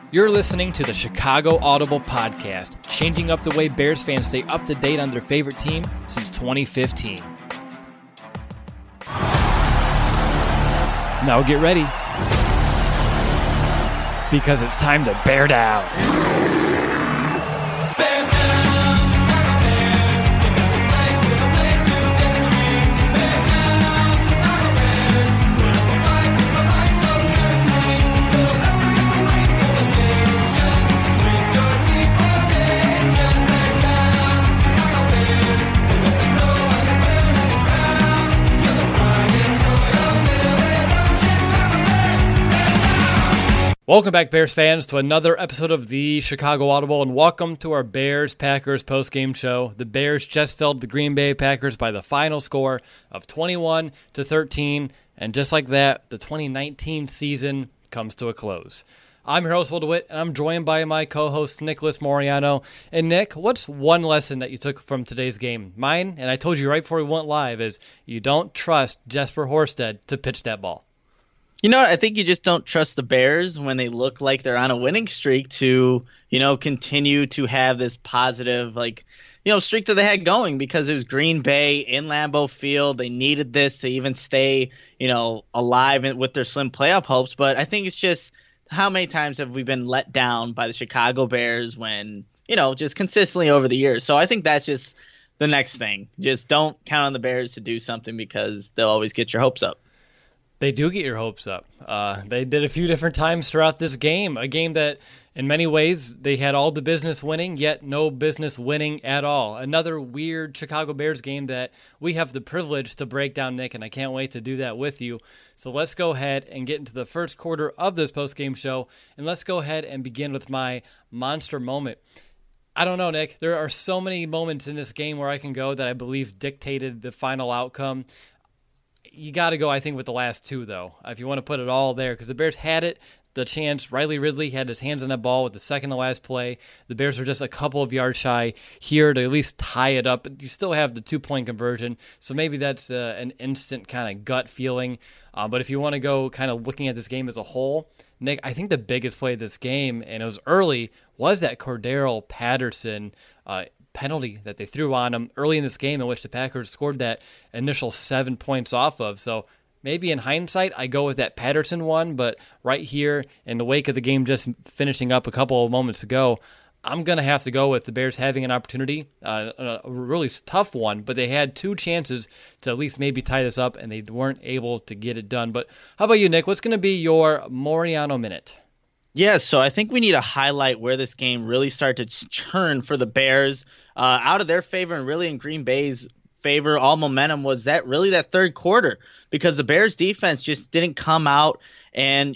You're listening to the Chicago Audible Podcast, changing up the way Bears fans stay up to date on their favorite team since 2015. Now get ready, because it's time to bear down. Welcome back, Bears fans, to another episode of the Chicago Audible, and welcome to our Bears-Packers postgame show. The Bears just felled the Green Bay Packers by the final score of 21-13, and just like that, the 2019 season comes to a close. I'm your host, Will DeWitt, and I'm joined by my co-host, Nicholas Moriano. And Nick, what's one lesson that you took from today's game? Mine, and I told you right before we went live, is you don't trust Jesper Horsted to pitch that ball. You know what? I think you just don't trust the Bears when they look like they're on a winning streak to, continue to have this positive, streak that they had going, because it was Green Bay in Lambeau Field. They needed this to even stay, alive with their slim playoff hopes. But I think it's just, how many times have we been let down by the Chicago Bears when, just consistently over the years? So I think that's just the next thing. Just don't count on the Bears to do something, because they'll always get your hopes up. They do get your hopes up. They did a few different times throughout this game, a game that in many ways they had all the business winning, yet no business winning at all. Another weird Chicago Bears game that we have the privilege to break down, Nick, and I can't wait to do that with you. So let's go ahead and get into the first quarter of this postgame show, and let's go ahead and begin with my monster moment. I don't know, Nick. There are so many moments in this game where I can go that I believe dictated the final outcome. You got to go, I think, with the last two, though, if you want to put it all there, because the Bears had it, the chance. Riley Ridley had his hands on that ball with the second to last play. The Bears were just a couple of yards shy here to at least tie it up. You still have the 2-point conversion, so maybe that's an instant kind of gut feeling. But if you want to go kind of looking at this game as a whole, Nick, I think the biggest play of this game, and it was early, was that Cordero Patterson penalty that they threw on him early in this game, in which the Packers scored that initial 7 points off of. So maybe in hindsight, I go with that Patterson one, but right here in the wake of the game just finishing up a couple of moments ago, I'm going to have to go with the Bears having an opportunity, a really tough one, but they had two chances to at least maybe tie this up, and they weren't able to get it done. But how about you, Nick? What's going to be your Moriano minute? Yeah, so I think we need to highlight where this game really started to turn for the Bears out of their favor, and really in Green Bay's favor. All momentum was that third quarter, because the Bears defense just didn't come out and,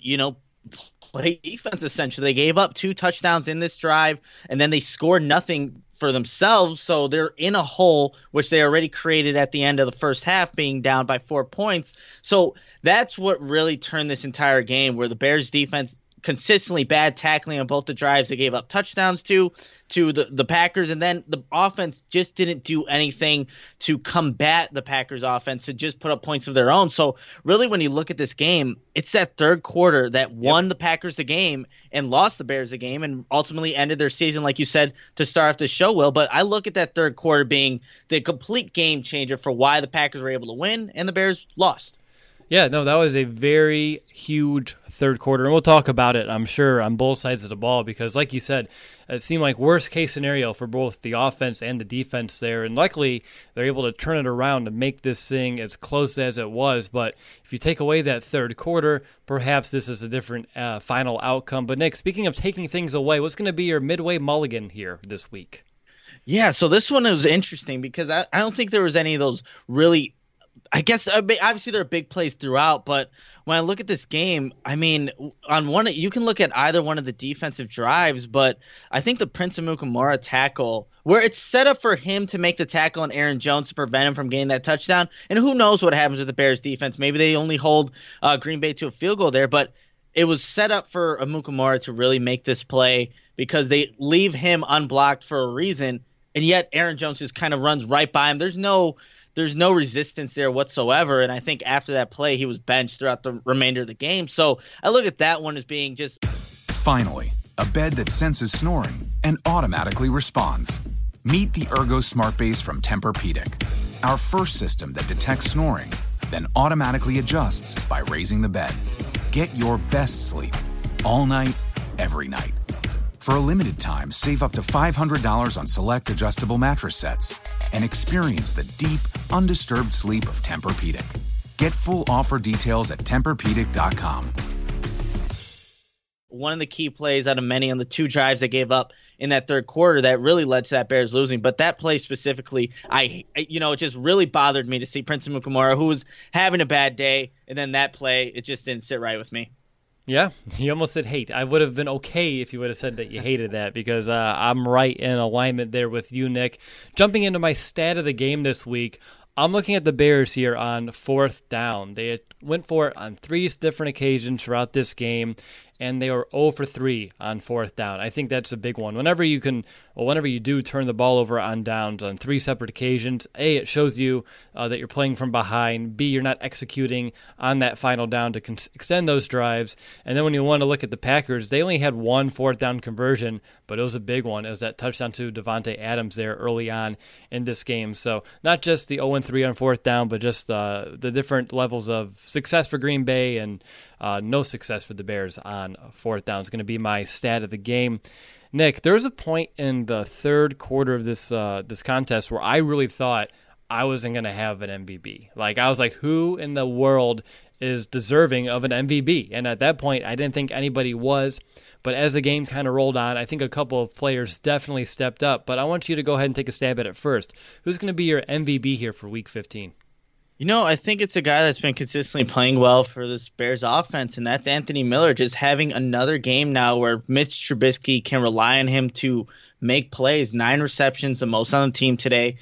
play defense essentially. They gave up 2 touchdowns in this drive, and then they scored nothing for themselves, so they're in a hole which they already created at the end of the first half, being down by 4 points. So that's what really turned this entire game, where the Bears defense consistently bad tackling on both the drives they gave up touchdowns to the Packers, and then the offense just didn't do anything to combat the Packers offense, to just put up points of their own. So really, when you look at this game, it's that third quarter that won the Packers the game and lost the Bears the game, and ultimately ended their season, like you said, to start off the show, Will. But I look at that third quarter being the complete game changer for why the Packers were able to win and the Bears lost. Yeah, no, that was a very huge third quarter, and we'll talk about it, I'm sure, on both sides of the ball, because like you said, it seemed like worst-case scenario for both the offense and the defense there, and luckily they're able to turn it around to make this thing as close as it was. But if you take away that third quarter, perhaps this is a different final outcome. But Nick, speaking of taking things away, what's going to be your midway mulligan here this week? Yeah, so this one was interesting, because I don't think there was any of those really, I guess obviously there are big plays throughout, but when I look at this game, I mean, on one, you can look at either one of the defensive drives, but I think the Prince Amukamara tackle, where it's set up for him to make the tackle on Aaron Jones to prevent him from getting that touchdown, and who knows what happens with the Bears defense. Maybe they only hold Green Bay to a field goal there, but it was set up for Amukamara to really make this play, because they leave him unblocked for a reason, and yet Aaron Jones just kind of runs right by him. There's no resistance there whatsoever, and I think after that play, he was benched throughout the remainder of the game. So I look at that one as being just... Finally, a bed that senses snoring and automatically responds. Meet the Ergo Smart Base from Tempur-Pedic, our first system that detects snoring, then automatically adjusts by raising the bed. Get your best sleep all night, every night. For a limited time, save up to $500 on select adjustable mattress sets and experience the deep, undisturbed sleep of Tempur-Pedic. Get full offer details at TempurPedic.com. One of the key plays out of many on the 2 drives they gave up in that third quarter that really led to that Bears losing. But that play specifically, it just really bothered me to see Prince Amukamara, who was having a bad day, and then that play, it just didn't sit right with me. Yeah, you almost said hate. I would have been okay if you would have said that you hated that, because I'm right in alignment there with you, Nick. Jumping into my stat of the game this week, I'm looking at the Bears here on 4th down. They went for it on 3 different occasions throughout this game, and they were 0 for 3 on 4th down. I think that's a big one. Whenever you do turn the ball over on downs on 3 separate occasions, A, it shows you that you're playing from behind. B, you're not executing on that final down to extend those drives. And then when you want to look at the Packers, they only had 1 4th down conversion, but it was a big one. It was that touchdown to Davante Adams there early on in this game. So not just the 0-3 on 4th down, but just the different levels of success for Green Bay and no success for the Bears on 4th down is going to be my stat of the game. Nick, there was a point in the third quarter of this contest where I really thought I wasn't going to have an MVP. I was like, who in the world is deserving of an MVP? And at that point, I didn't think anybody was. But as the game kind of rolled on, I think a couple of players definitely stepped up. But I want you to go ahead and take a stab at it first. Who's going to be your MVP here for Week 15? I think it's a guy that's been consistently playing well for this Bears offense, and that's Anthony Miller, just having another game now where Mitch Trubisky can rely on him to make plays. 9 receptions, the most on the team today,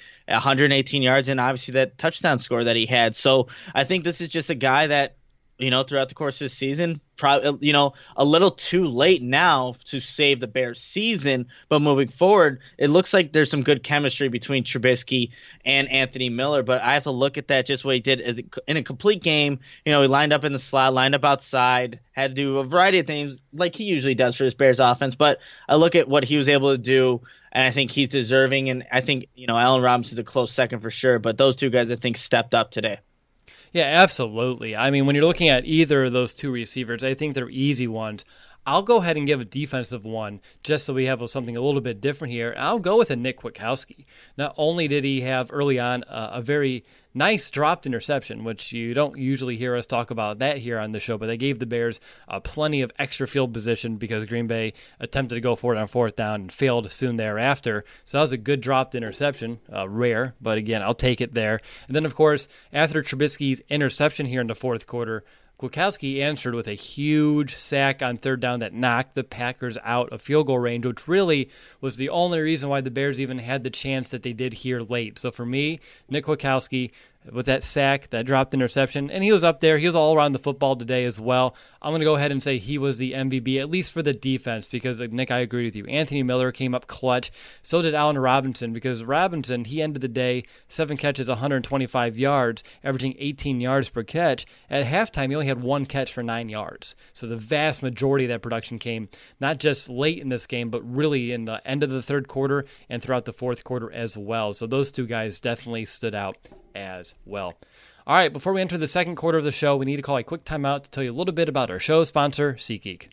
118 yards, and obviously that touchdown score that he had. So I think this is just a guy that, throughout the course of the season, probably, a little too late now to save the Bears season, but moving forward, it looks like there's some good chemistry between Trubisky and Anthony Miller. But I have to look at that, just what he did in a complete game. He lined up in the slot, lined up outside, had to do a variety of things like he usually does for his Bears offense. But I look at what he was able to do, and I think he's deserving. And I think, Allen Robinson's a close second for sure. But those 2 guys, I think, stepped up today. Yeah, absolutely. I mean, when you're looking at either of those 2 receivers, I think they're easy ones. I'll go ahead and give a defensive one just so we have something a little bit different here. I'll go with a Nick Kwiatkowski. Not only did he have early on a very nice dropped interception, which you don't usually hear us talk about that here on the show, but they gave the Bears plenty of extra field position because Green Bay attempted to go for it on 4th down and failed soon thereafter. So that was a good dropped interception, rare, but again, I'll take it there. And then, of course, after Trubisky's interception here in the 4th quarter, Kwiatkowski answered with a huge sack on 3rd down that knocked the Packers out of field goal range, which really was the only reason why the Bears even had the chance that they did here late. So for me, Nick Kwiatkowski, with that sack, that dropped interception, and he was up there. He was all around the football today as well. I'm going to go ahead and say he was the MVP, at least for the defense, because, Nick, I agree with you. Anthony Miller came up clutch. So did Allen Robinson, because Robinson, he ended the day 7 catches, 125 yards, averaging 18 yards per catch. At halftime, he only had 1 catch for 9 yards. So the vast majority of that production came not just late in this game, but really in the end of the 3rd quarter and throughout the 4th quarter as well. So those 2 guys definitely stood out as well. All right, before we enter the 2nd quarter of the show, we need to call a quick timeout to tell you a little bit about our show sponsor, SeatGeek.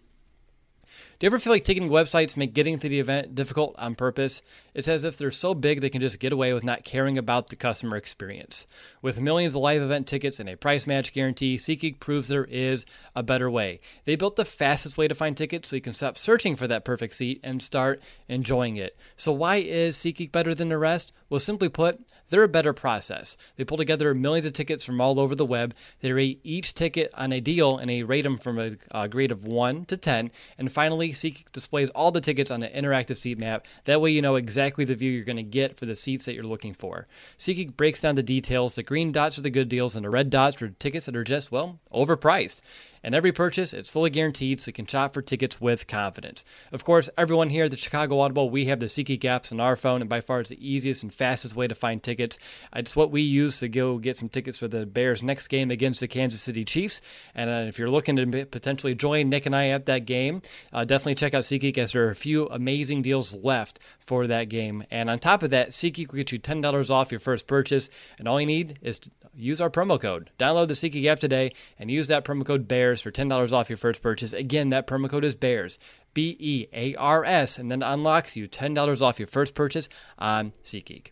Do you ever feel like ticketing websites make getting to the event difficult on purpose? It's as if they're so big they can just get away with not caring about the customer experience. With millions of live event tickets and a price match guarantee, SeatGeek proves there is a better way. They built the fastest way to find tickets so you can stop searching for that perfect seat and start enjoying it. So why is SeatGeek better than the rest? Well, simply put, they're a better process. They pull together millions of tickets from all over the web. They rate each ticket on a deal, and they rate them from a grade of 1 to 10. And finally, SeatGeek displays all the tickets on an interactive seat map. That way you know exactly the view you're going to get for the seats that you're looking for. SeatGeek breaks down the details. The green dots are the good deals, and the red dots are tickets that are just, well, overpriced. And every purchase, it's fully guaranteed, so you can shop for tickets with confidence. Of course, everyone here at the Chicago Audible, we have the SeatGeek apps on our phone, and by far it's the easiest and fastest way to find tickets. It's what we use to go get some tickets for the Bears' next game against the Kansas City Chiefs. And if you're looking to potentially join Nick and I at that game, definitely check out SeatGeek, as there are a few amazing deals left for that game. And on top of that, SeatGeek will get you $10 off your first purchase, and all you need is to use our promo code. Download the SeatGeek app today and use that promo code BEARS for $10 off your first purchase. Again, that promo code is BEARS, BEARS, and then unlocks you $10 off your first purchase on SeatGeek.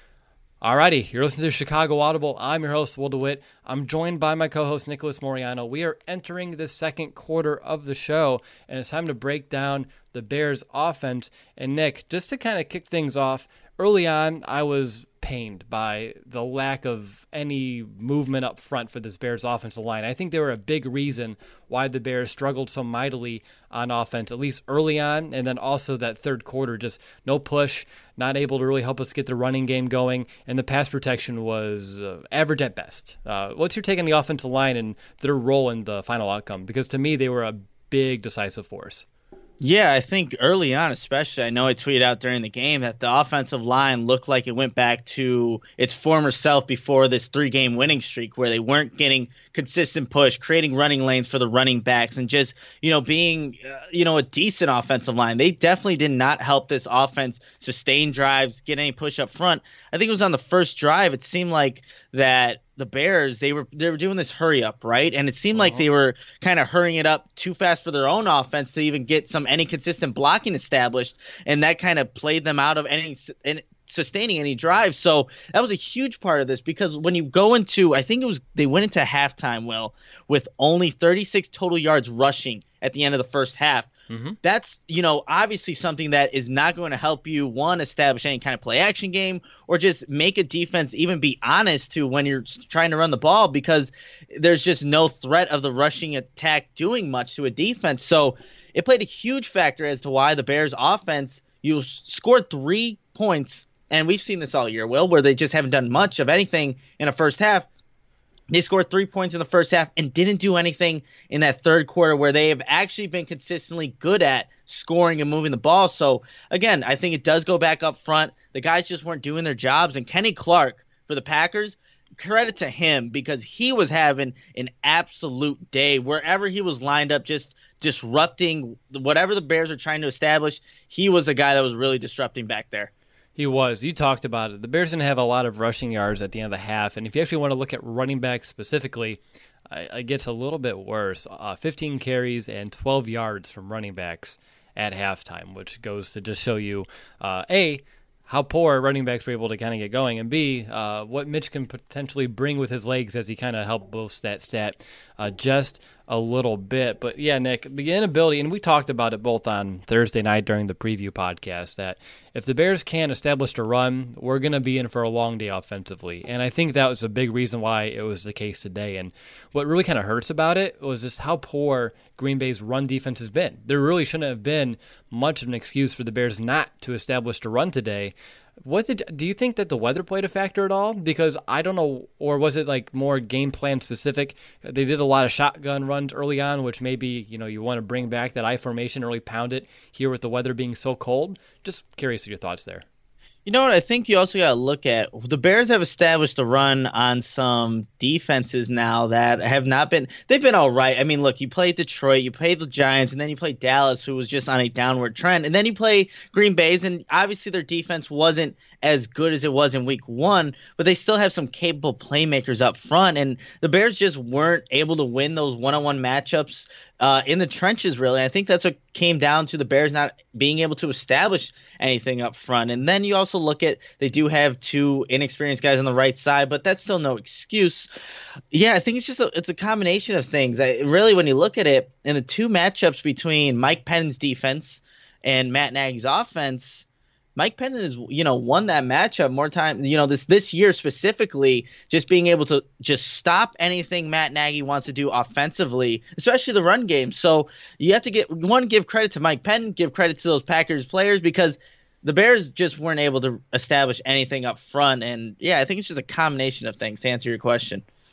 Alrighty, you're listening to Chicago Audible. I'm your host, Will DeWitt. I'm joined by my co-host, Nicholas Moriano. We are entering the second quarter of the show, and it's time to break down the Bears' offense. And Nick, just to kind of kick things off, early on, I was pained by the lack of any movement up front for this Bears offensive line. I think they were a big reason why the Bears struggled so mightily on offense, at least early on, and then also that third quarter, just no push, not able to really help us get the running game going, and the pass protection was average at best. What's your take on the offensive line and their role in the final outcome? Because to me, they were a big decisive force. Yeah, I think early on especially, I know I tweeted out during the game that the offensive line looked like it went back to its former self before this 3-game winning streak, where they weren't getting consistent push, creating running lanes for the running backs, and just, being, a decent offensive line. They definitely did not help this offense sustain drives, get any push up front. I think it was on the first drive, it seemed like that the Bears, they were doing this hurry up, right? And it seemed like they were kind of hurrying it up too fast for their own offense to even get any consistent blocking established, and that kind of played them out of any sustaining any drive. So that was a huge part of this, because when you go into, I think they went into halftime, Will, with only 36 total yards rushing at the end of the first half. Mm-hmm. That's, obviously something that is not going to help you, one, establish any kind of play action game, or just make a defense even be honest to when you're trying to run the ball, because there's just no threat of the rushing attack doing much to a defense. So it played a huge factor as to why the Bears offense, you scored 3 points, and we've seen this all year, Will, where they just haven't done much of anything in a first half. They scored 3 points in the first half and didn't do anything in that third quarter, where they have actually been consistently good at scoring and moving the ball. So, again, I think it does go back up front. The guys just weren't doing their jobs. And Kenny Clark for the Packers, credit to him, because he was having an absolute day wherever he was lined up, just disrupting whatever the Bears are trying to establish. He was the guy that was really disrupting back there. He was. You talked about it. The Bears didn't have a lot of rushing yards at the end of the half, and if you actually want to look at running backs specifically, it gets a little bit worse. 15 carries and 12 yards from running backs at halftime, which goes to just show you, A, how poor running backs were able to kind of get going, and B, what Mitch can potentially bring with his legs as he kind of helped boost that stat just a little bit. But yeah, Nick, the inability, and we talked about it both on Thursday night during the preview podcast, that if the Bears can't establish a run, we're going to be in for a long day offensively. And I think that was a big reason why it was the case today. And what really kind of hurts about it was just how poor Green Bay's run defense has been. There really shouldn't have been much of an excuse for the Bears not to establish a run today. Do you think that the weather played a factor at all? Because I don't know, or was it like more game plan specific? They did a lot of shotgun runs early on, which maybe, you want to bring back that I formation, really pound it here with the weather being so cold. Just curious of your thoughts there. You know what? I think you also got to look at the Bears have established a run on some defenses now that have not been – they've been all right. I mean, look, you play Detroit, you play the Giants, and then you play Dallas, who was just on a downward trend. And then you play Green Bay's, and obviously their defense wasn't as good as it was in week one, but they still have some capable playmakers up front. And the Bears just weren't able to win those one-on-one matchups in the trenches, really. I think that's what came down to the Bears not being able to establish anything up front. And then you also look at, they do have 2 inexperienced guys on the right side, but that's still no excuse. Yeah, I think it's just it's a combination of things. Really, when you look at it, in the 2 matchups between Mike Penn's defense and Matt Nagy's offense, Mike Pennon has, won that matchup more time, this year specifically, just being able to just stop anything Matt Nagy wants to do offensively, especially the run game. So you have to give credit to Mike Pennon, give credit to those Packers players, because the Bears just weren't able to establish anything up front. And yeah, I think it's just a combination of things to answer your question.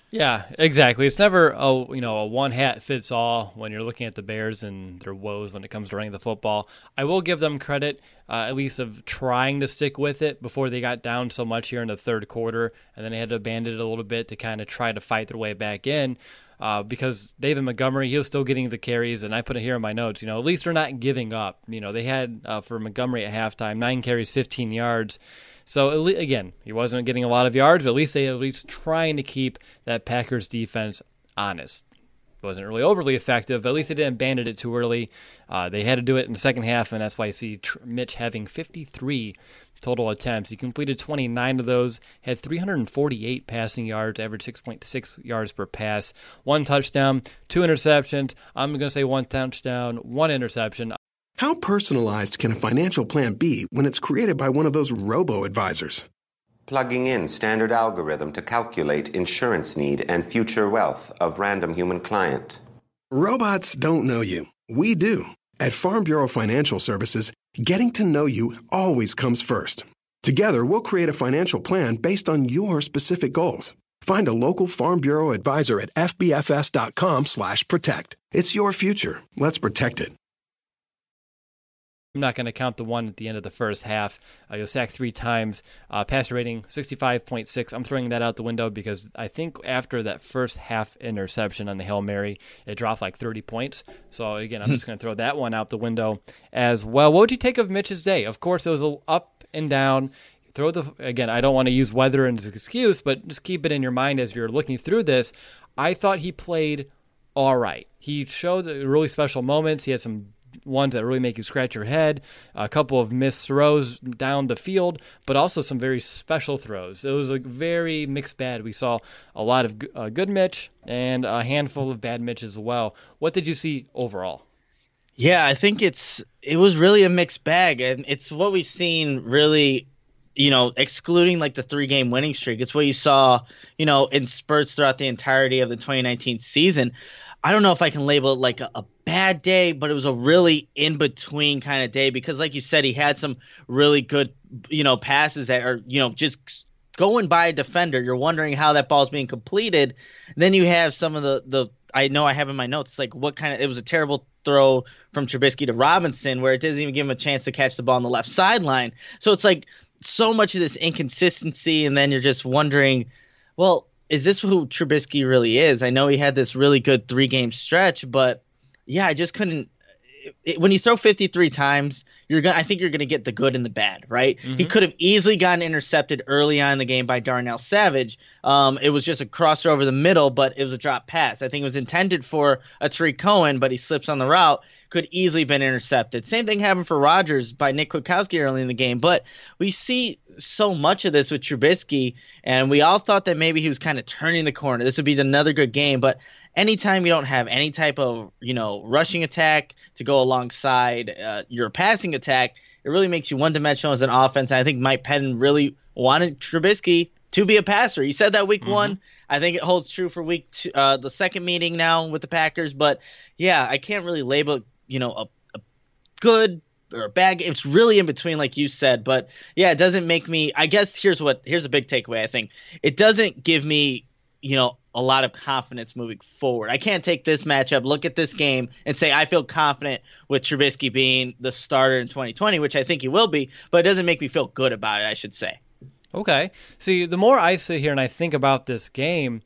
Yeah, exactly. It's never a one hat fits all when you're looking at the Bears and their woes when it comes to running the football. I will give them credit, at least of trying to stick with it before they got down so much here in the third quarter, and then they had to abandon it a little bit to kind of try to fight their way back in. Because David Montgomery, he was still getting the carries, and I put it here in my notes. At least they're not giving up. They had for Montgomery at halftime 9 carries, 15 yards. So, again, he wasn't getting a lot of yards, but at least they trying to keep that Packers defense honest. It wasn't really overly effective, but at least they didn't abandon it too early. They had to do it in the second half, and that's why you see Mitch having 53 total attempts. He completed 29 of those, had 348 passing yards, averaged 6.6 yards per pass, 1 touchdown, 2 interceptions. I'm going to say 1 touchdown, 1 interception. How personalized can a financial plan be when it's created by one of those robo-advisors? Plugging in standard algorithm to calculate insurance need and future wealth of random human client. Robots don't know you. We do. At Farm Bureau Financial Services, getting to know you always comes first. Together, we'll create a financial plan based on your specific goals. Find a local Farm Bureau advisor at fbfs.com/protect. It's your future. Let's protect it. I'm not going to count the one at the end of the first half. He was sacked 3 times. Passer rating 65.6. I'm throwing that out the window because I think after that first half interception on the Hail Mary, it dropped like 30 points. So, again, I'm just going to throw that one out the window as well. What would you take of Mitch's day? Of course, it was up and down. Again, I don't want to use weather as an excuse, but just keep it in your mind as you're looking through this. I thought he played all right. He showed really special moments. He had some ones that really make you scratch your head, a couple of missed throws down the field, but also some very special throws. It was a very mixed bag. We saw a lot of good Mitch and a handful of bad Mitch as well. What did you see overall? Yeah, I think it was really a mixed bag, and it's what we've seen really, excluding like the 3-game winning streak. It's what you saw, in spurts throughout the entirety of the 2019 season. I don't know if I can label it like a bad day, but it was a really in-between kind of day because, like you said, he had some really good, passes that are, just going by a defender. You're wondering how that ball's being completed. Then you have some of the I know I have in my notes, like it was a terrible throw from Trubisky to Robinson where it doesn't even give him a chance to catch the ball on the left sideline. So it's like so much of this inconsistency, and then you're just wondering, well, is this who Trubisky really is? I know he had this really good 3-game stretch, but yeah, I just couldn't. When you throw 53 times, I think you're gonna get the good and the bad, right? Mm-hmm. He could have easily gotten intercepted early on in the game by Darnell Savage. It was just a crosser over the middle, but it was a drop pass. I think it was intended for a Tariq Cohen, but he slips on the route. Could easily been intercepted. Same thing happened for Rodgers by Nick Kwiatkowski early in the game. But we see so much of this with Trubisky, and we all thought that maybe he was kind of turning the corner. This would be another good game. But anytime you don't have any type of rushing attack to go alongside your passing attack, it really makes you one-dimensional as an offense. And I think Mike Pettin really wanted Trubisky to be a passer. He said that week 1. I think it holds true for week 2, the second meeting now with the Packers. But, yeah, I can't really label a good or a bad game. It's really in between, like you said. But, yeah, it doesn't make me – I guess here's a big takeaway, I think. It doesn't give me, a lot of confidence moving forward. I can't take this matchup, look at this game, and say I feel confident with Trubisky being the starter in 2020, which I think he will be. But it doesn't make me feel good about it, I should say. Okay. See, the more I sit here and I think about this game,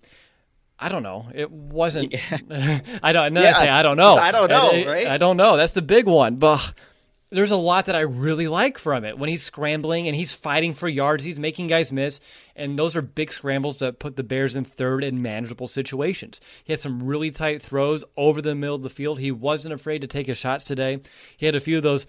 I don't know. It wasn't. Yeah. I don't know. I don't know. I don't know, right? I don't know. That's the big one. But there's a lot that I really like from it. When he's scrambling and he's fighting for yards, he's making guys miss. And those are big scrambles that put the Bears in third in manageable situations. He had some really tight throws over the middle of the field. He wasn't afraid to take his shots today. He had a few of those,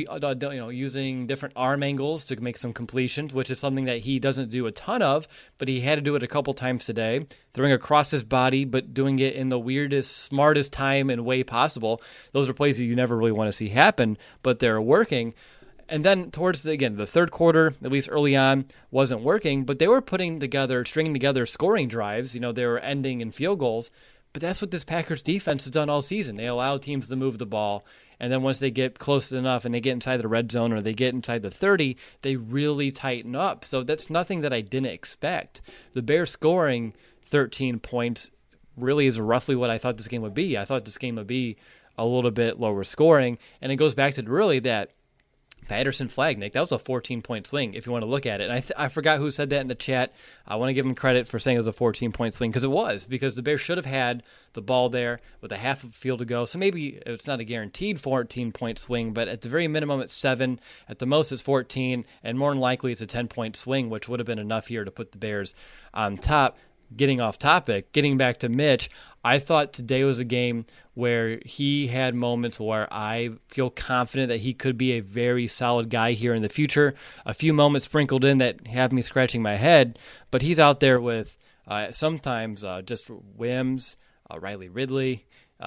using different arm angles to make some completions, which is something that he doesn't do a ton of, but he had to do it a couple times today, throwing across his body, but doing it in the weirdest, smartest time and way possible. Those are plays that you never really want to see happen, but they're working. And then towards, the third quarter, at least early on, wasn't working, but they were stringing together scoring drives. They were ending in field goals. But that's what this Packers defense has done all season. They allow teams to move the ball, and then once they get close enough and they get inside the red zone or they get inside the 30, they really tighten up. So that's nothing that I didn't expect. The Bears scoring 13 points really is roughly what I thought this game would be. I thought this game would be a little bit lower scoring, and it goes back to really that Patterson flag, Nick. That was a 14-point swing if you want to look at it. And I forgot who said that in the chat. I want to give him credit for saying it was a 14-point swing because it was, because the Bears should have had the ball there with a half of the field to go. So maybe it's not a guaranteed 14-point swing, but at the very minimum it's 7. At the most it's 14, and more than likely it's a 10-point swing, which would have been enough here to put the Bears on top. Getting off topic, getting back to Mitch, I thought today was a game where he had moments where I feel confident that he could be a very solid guy here in the future. A few moments sprinkled in that have me scratching my head, but he's out there with sometimes just whims, Riley Ridley,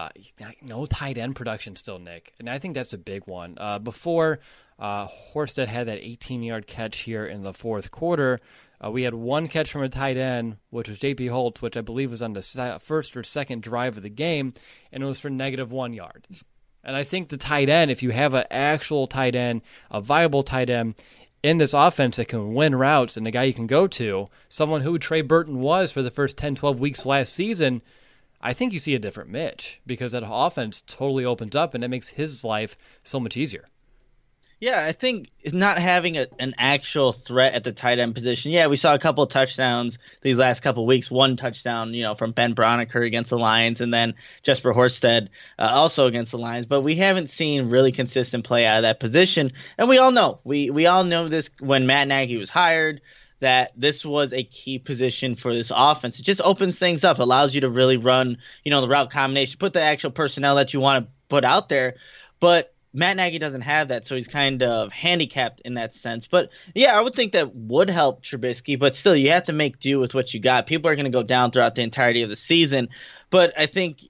no tight end production still, Nick. And I think that's a big one. Before Horsted had that 18-yard catch here in the fourth quarter, we had one catch from a tight end, which was J.P. Holtz, which I believe was on the first or second drive of the game, and it was for -1 yard. And I think the tight end, if you have an actual tight end, a viable tight end in this offense that can win routes and a guy you can go to, someone who Trey Burton was for the first 10, 12 weeks last season, I think you see a different Mitch because that offense totally opens up and it makes his life so much easier. Yeah, I think not having an actual threat at the tight end position. Yeah, we saw a couple of touchdowns these last couple of weeks. One touchdown, from Ben Broniker against the Lions, and then Jesper Horsted also against the Lions. But we haven't seen really consistent play out of that position. And we all know, we all know this when Matt Nagy was hired, that this was a key position for this offense. It just opens things up, allows you to really run, the route combination, put the actual personnel that you want to put out there. But Matt Nagy doesn't have that, so he's kind of handicapped in that sense. But, yeah, I would think that would help Trubisky, but still you have to make do with what you got. People are going to go down throughout the entirety of the season. But I think,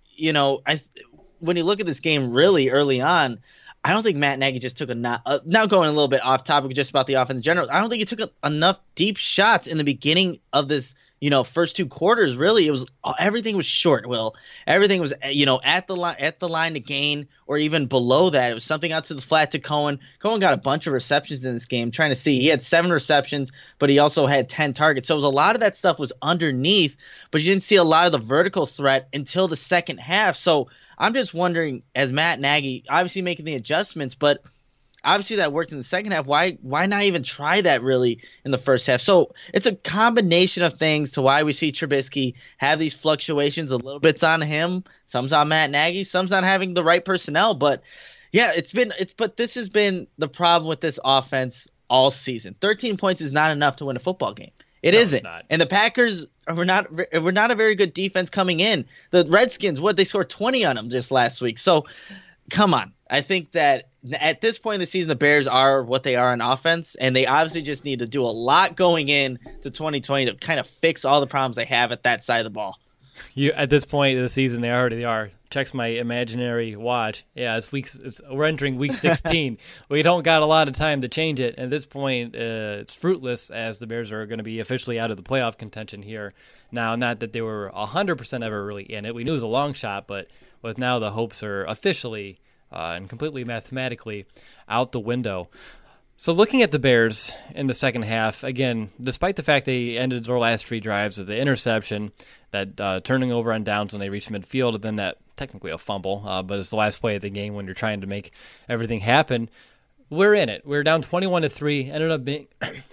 when you look at this game really early on, I don't think Matt Nagy just took now going a little bit off topic just about the offense in general, I don't think he took enough deep shots in the beginning of this first two quarters. Really, everything was short. Will everything was at the line to gain, or even below that. It was something out to the flat to Cohen. Cohen got a bunch of receptions in this game. Trying to see, he had 7 receptions, but he also had 10 targets. So it was a lot of that stuff was underneath, but you didn't see a lot of the vertical threat until the second half. So I'm just wondering, as Matt Nagy obviously making the adjustments, but obviously that worked in the second half. Why not even try that really in the first half? So it's a combination of things to why we see Trubisky have these fluctuations. A little bit's on him, some's on Matt Nagy, some's not having the right personnel. But yeah, but this has been the problem with this offense all season. 13 points is not enough to win a football game. It isn't. And the Packers were not a very good defense coming in. The Redskins, they scored 20 on them just last week. So come on. I think that at this point in the season, the Bears are what they are on offense, and they obviously just need to do a lot going in to 2020 to kind of fix all the problems they have at that side of the ball. At this point of the season, they already are. Checks my imaginary watch. Yeah, we're entering week 16. We don't got a lot of time to change it. At this point, it's fruitless, as the Bears are going to be officially out of the playoff contention here. Now, not that they were 100% ever really in it. We knew it was a long shot, but with now the hopes are officially and completely mathematically out the window. So looking at the Bears in the second half, again, despite the fact they ended their last 3 drives with the interception, that turning over on downs when they reached midfield, and then that technically a fumble, but it's the last play of the game when you're trying to make everything happen. We're in it. We're down 21-3. Ended up being,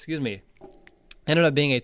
ended up being a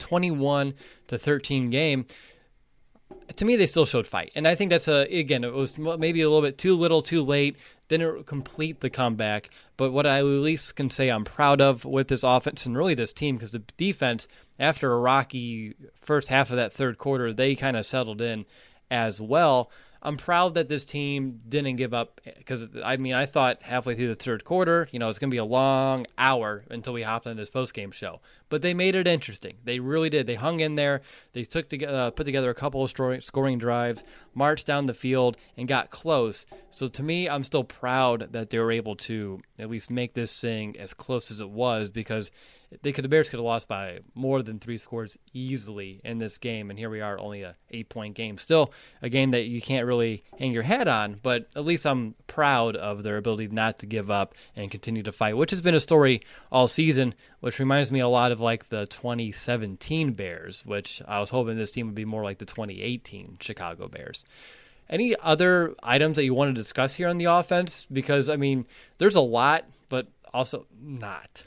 21-13 game. To me, they still showed fight, and I think that's it was maybe a little bit too little, too late. Didn't complete the comeback, but what I at least can say I'm proud of with this offense and really this team, because the defense, after a rocky first half of that third quarter, they kind of settled in as well. I'm proud that this team didn't give up, because, I thought halfway through the third quarter, it's going to be a long hour until we hopped on this postgame show. But they made it interesting. They really did. They hung in there. They put together a couple of scoring drives, marched down the field, and got close. So to me, I'm still proud that they were able to at least make this thing as close as it was, because the Bears could have lost by more than 3 scores easily in this game, and here we are, only a 8-point game. Still a game that you can't really hang your head on, but at least I'm proud of their ability not to give up and continue to fight, which has been a story all season, which reminds me a lot of like the 2017 Bears, which I was hoping this team would be more like the 2018 Chicago Bears. Any other items that you want to discuss here on the offense? Because, I mean, there's a lot, but also not.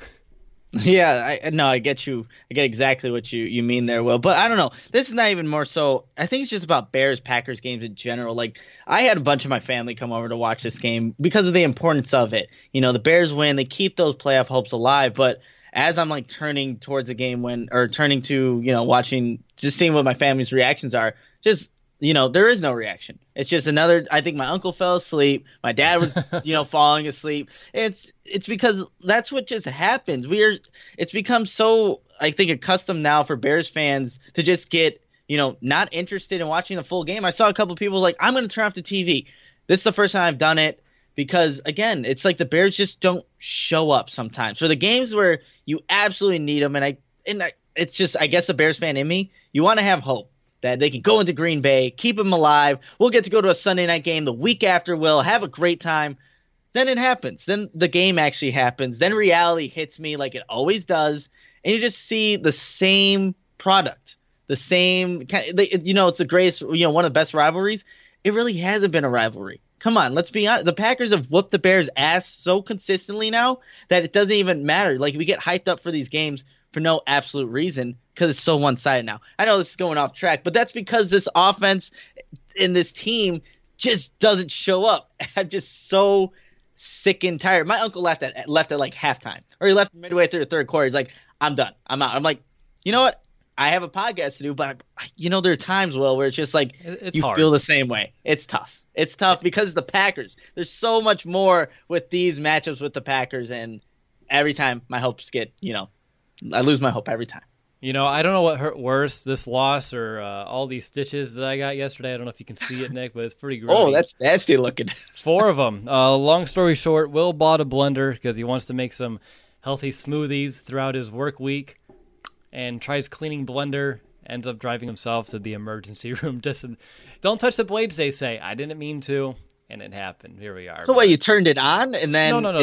Yeah, I get you. I get exactly what you mean there, Will. But I don't know. This is not even more so. I think it's just about Bears-Packers games in general. Like, I had a bunch of my family come over to watch this game because of the importance of it. You know, the Bears win. They keep those playoff hopes alive. But as I'm, like, turning towards the game turning to, you know, watching, just seeing what my family's reactions are, just, you know, there is no reaction. It's just I think my uncle fell asleep. My dad was, you know, falling asleep. It's because that's what just happens. It's become so, I think, accustomed now for Bears fans to just get, you know, not interested in watching the full game. I saw a couple of people like, I'm going to turn off the TV. This is the first time I've done it because, again, it's like the Bears just don't show up sometimes. For the games where you absolutely need them, it's just, I guess the Bears fan in me, you want to have hope that they can go into Green Bay, keep them alive. We'll get to go to a Sunday night game the week after. We'll have a great time. Then it happens. Then the game actually happens. Then reality hits me like it always does. And you just see the same product, the same you know, it's the greatest, you know, one of the best rivalries. It really hasn't been a rivalry. Come on, let's be honest. The Packers have whooped the Bears' ass so consistently now that it doesn't even matter. Like, we get hyped up for these games for no absolute reason because it's so one-sided now. I know this is going off track, but that's because this offense and this team just doesn't show up. I'm just so sick and tired. My uncle left at like halftime, or he left midway through the third quarter. He's like, I'm done. I'm out. I'm like, you know what? I have a podcast to do, but you know, there are times, Will, where it's just like you hard. Feel the same way. It's tough. It's tough because the Packers. There's so much more with these matchups with the Packers, and every time my hopes get, you know, I lose my hope every time. You know, I don't know what hurt worse, this loss or all these stitches that I got yesterday. I don't know if you can see it, Nick, but it's pretty great. Oh, that's nasty looking. 4 of them. Long story short, Will bought a blender because he wants to make some healthy smoothies throughout his work week, and tries cleaning blender, ends up driving himself to the emergency room. Just don't touch the blades, they say. I didn't mean to, and it happened. Here we are. So what, you turned it on and then No.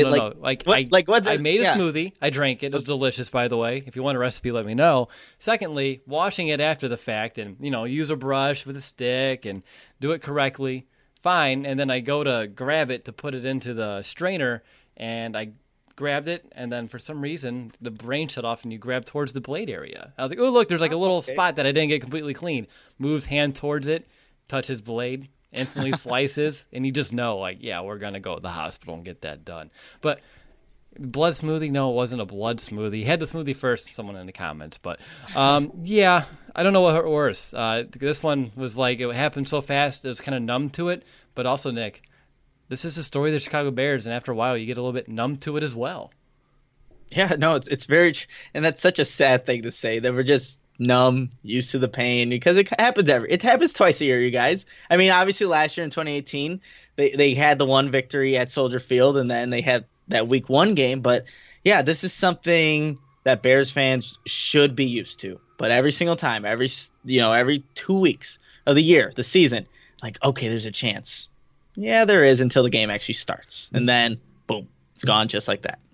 I made a smoothie. I drank it. It was delicious, by the way. If you want a recipe, let me know. Secondly, washing it after the fact and, you know, use a brush with a stick and do it correctly. Fine. And then I go to grab it to put it into the strainer, and I grabbed it, and then for some reason the brain shut off and you grab towards the blade area. I was like, oh, look, there's like a little spot that I didn't get completely clean. Moves hand towards it, touches blade, instantly slices, and you just know, like, yeah, we're going to go to the hospital and get that done. But blood smoothie? No, it wasn't a blood smoothie. Had the smoothie first, someone in the comments. But, yeah, I don't know what hurt worse. This one was like, it happened so fast, it was kind of numb to it. But also, Nick, this is the story of the Chicago Bears, and after a while, you get a little bit numb to it as well. Yeah, no, it's very, and that's such a sad thing to say, that we're just numb, used to the pain, because it happens twice a year, you guys. I mean, obviously last year in 2018, they had the one victory at Soldier Field, and then they had that week 1 game. But yeah, this is something that Bears fans should be used to. But every single time, every 2 weeks of the year, the season, like, okay, there's a chance. Yeah, there is, until the game actually starts. And then, boom, it's gone just like that.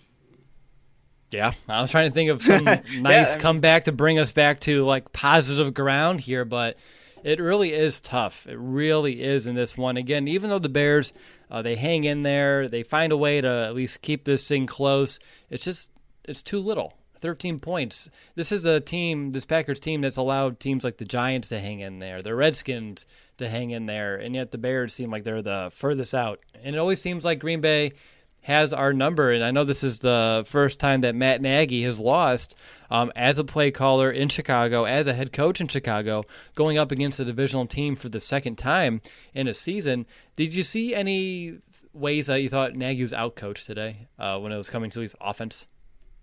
Yeah, I was trying to think of some nice comeback to bring us back to, like, positive ground here, but it really is tough. It really is in this one. Again, even though the Bears, they hang in there, they find a way to at least keep this thing close, it's too little. 13 points. This is this Packers team that's allowed teams like the Giants to hang in there, the Redskins to hang in there, and yet the Bears seem like they're the furthest out. And it always seems like Green Bay has our number, and I know this is the first time that Matt Nagy has lost as a play caller in Chicago, as a head coach in Chicago, going up against a divisional team for the second time in a season. Did you see any ways that you thought Nagy was outcoached today when it was coming to his offense?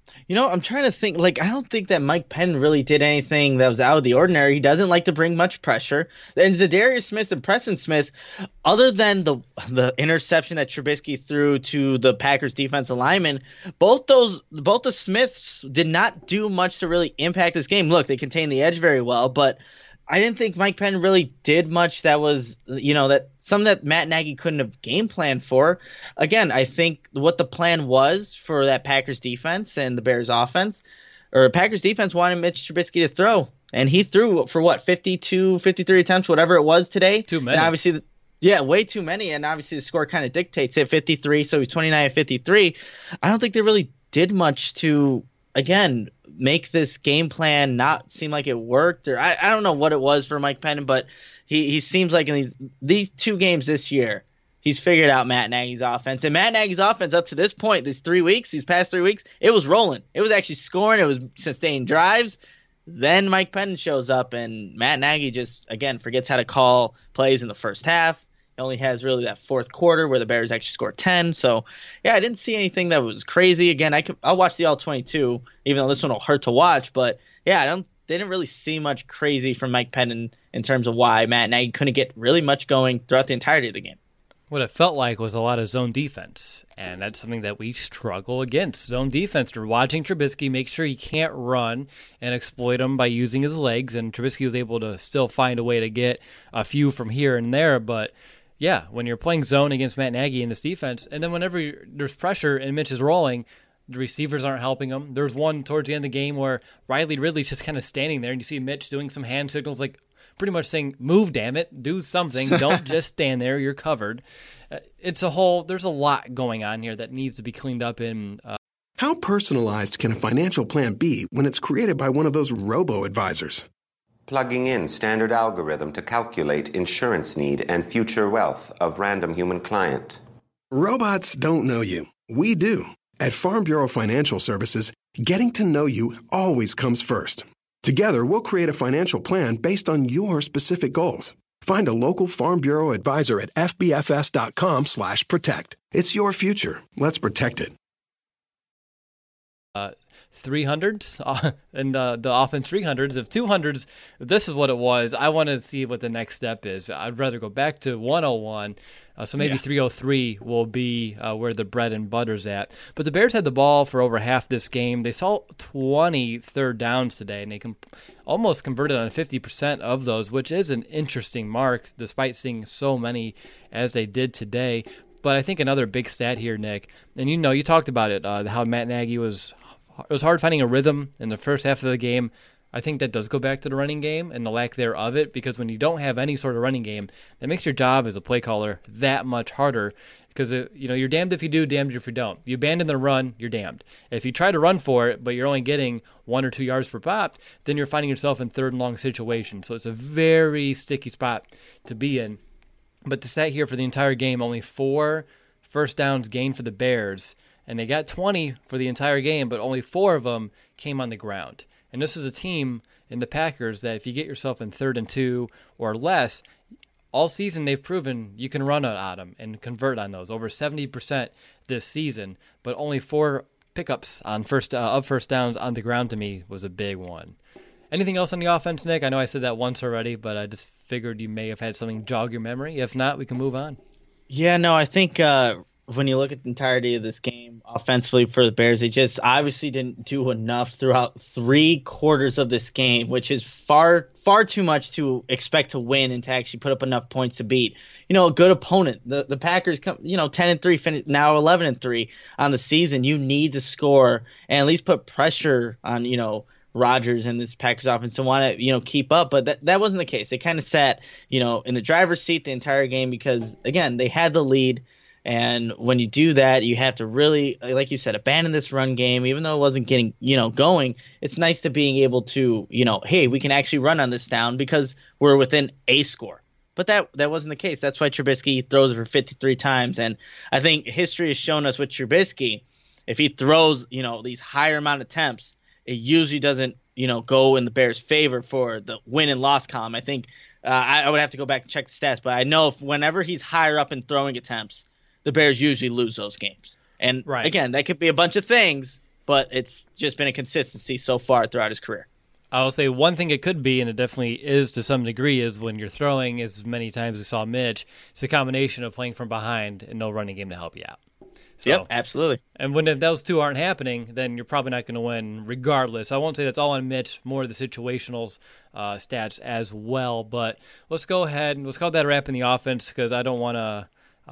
I'm trying to think. Like, I don't think that Mike Penn really did anything that was out of the ordinary. He doesn't like to bring much pressure. And Zadarius Smith and Preston Smith, other than the interception that Trubisky threw to the Packers defensive lineman, both the Smiths did not do much to really impact this game. Look, they contained the edge very well, but I didn't think Mike Penn really did much that was, that something that Matt Nagy couldn't have game planned for. Again, I think what the plan was for that Packers defense and the Bears offense, or Packers defense wanted Mitch Trubisky to throw. And he threw for 52, 53 attempts, whatever it was today. Too many. And obviously, way too many. And obviously the score kind of dictates it, 53. So he's 29 at 53. I don't think they really did much to, again, make this game plan not seem like it worked, or I don't know what it was for Mike Penn, but he seems like in these 2 games this year, he's figured out Matt Nagy's offense. And Matt Nagy's offense up to this point, these past 3 weeks, it was rolling. It was actually scoring. It was sustaining drives. Then Mike Penn shows up, and Matt Nagy just, again, forgets how to call plays in the first half. Only has really that fourth quarter where the Bears actually scored 10. So, yeah, I didn't see anything that was crazy. Again, I'll watch the All-22, even though this one will hurt to watch. But, yeah, they didn't really see much crazy from Mike Penn in terms of why Matt Nagy couldn't get really much going throughout the entirety of the game. What it felt like was a lot of zone defense, and that's something that we struggle against. Zone defense, you're watching Trubisky, make sure he can't run and exploit him by using his legs, and Trubisky was able to still find a way to get a few from here and there, but yeah, when you're playing zone against Matt Nagy in this defense, and then whenever there's pressure and Mitch is rolling, the receivers aren't helping him. There's one towards the end of the game where Riley Ridley's just kind of standing there, and you see Mitch doing some hand signals, like pretty much saying, move, damn it, do something. Don't just stand there, you're covered. There's a lot going on here that needs to be cleaned up in. How personalized can a financial plan be when it's created by one of those robo-advisors? Plugging in standard algorithm to calculate insurance need and future wealth of random human client. Robots don't know you. We do. At Farm Bureau Financial Services, getting to know you always comes first. Together, we'll create a financial plan based on your specific goals. Find a local Farm Bureau advisor at fbfs.com/protect. It's your future. Let's protect it. 300s and the offense 300s. If 200s, if this is what it was, I want to see what the next step is. I'd rather go back to 101. So maybe 303 will be where the bread and butter's at. But the Bears had the ball for over half this game. They saw 20 third downs today, and they almost converted on 50% of those, which is an interesting mark, despite seeing so many as they did today. But I think another big stat here, Nick, and you talked about it, how Matt Nagy it was hard finding a rhythm in the first half of the game. I think that does go back to the running game and the lack thereof it, because when you don't have any sort of running game, that makes your job as a play caller that much harder, because you're damned if you do, damned if you don't. You abandon the run, you're damned. If you try to run for it, but you're only getting 1 or 2 yards per pop, then you're finding yourself in third and long situations. So it's a very sticky spot to be in. But to sat here for the entire game, only 4 first downs gained for the Bears, and they got 20 for the entire game, but only 4 of them came on the ground. And this is a team in the Packers that if you get yourself in 3rd and 2 or less, all season they've proven you can run on them and convert on those. Over 70% this season, but only 4 pickups on first downs on the ground to me was a big one. Anything else on the offense, Nick? I know I said that once already, but I just figured you may have had something jog your memory. If not, we can move on. Yeah, no, I think when you look at the entirety of this game offensively for the Bears, they just obviously didn't do enough throughout 3 quarters of this game, which is far too much to expect to win and to actually put up enough points to beat, a good opponent. The Packers come, 10-3, now 11-3 on the season. You need to score and at least put pressure on, Rodgers and this Packers offense to want to, keep up. But that wasn't the case. They kind of sat, in the driver's seat the entire game because, again, they had the lead. And when you do that, you have to really, like you said, abandon this run game. Even though it wasn't getting, going, it's nice to being able to, hey, we can actually run on this down because we're within a score. But that wasn't the case. That's why Trubisky throws it for 53 times. And I think history has shown us with Trubisky, if he throws, these higher amount of attempts, it usually doesn't, go in the Bears' favor for the win and loss column. I think I would have to go back and check the stats, but I know whenever he's higher up in throwing attempts, the Bears usually lose those games. And Again, that could be a bunch of things, but it's just been a consistency so far throughout his career. I'll say one thing it could be, and it definitely is to some degree, is when you're throwing as many times as we saw Mitch, it's a combination of playing from behind and no running game to help you out. So, yep, absolutely. And when those two aren't happening, then you're probably not going to win regardless. I won't say that's all on Mitch, more of the situational stats as well. But let's go ahead and let's call that a wrap in the offense, because I don't want to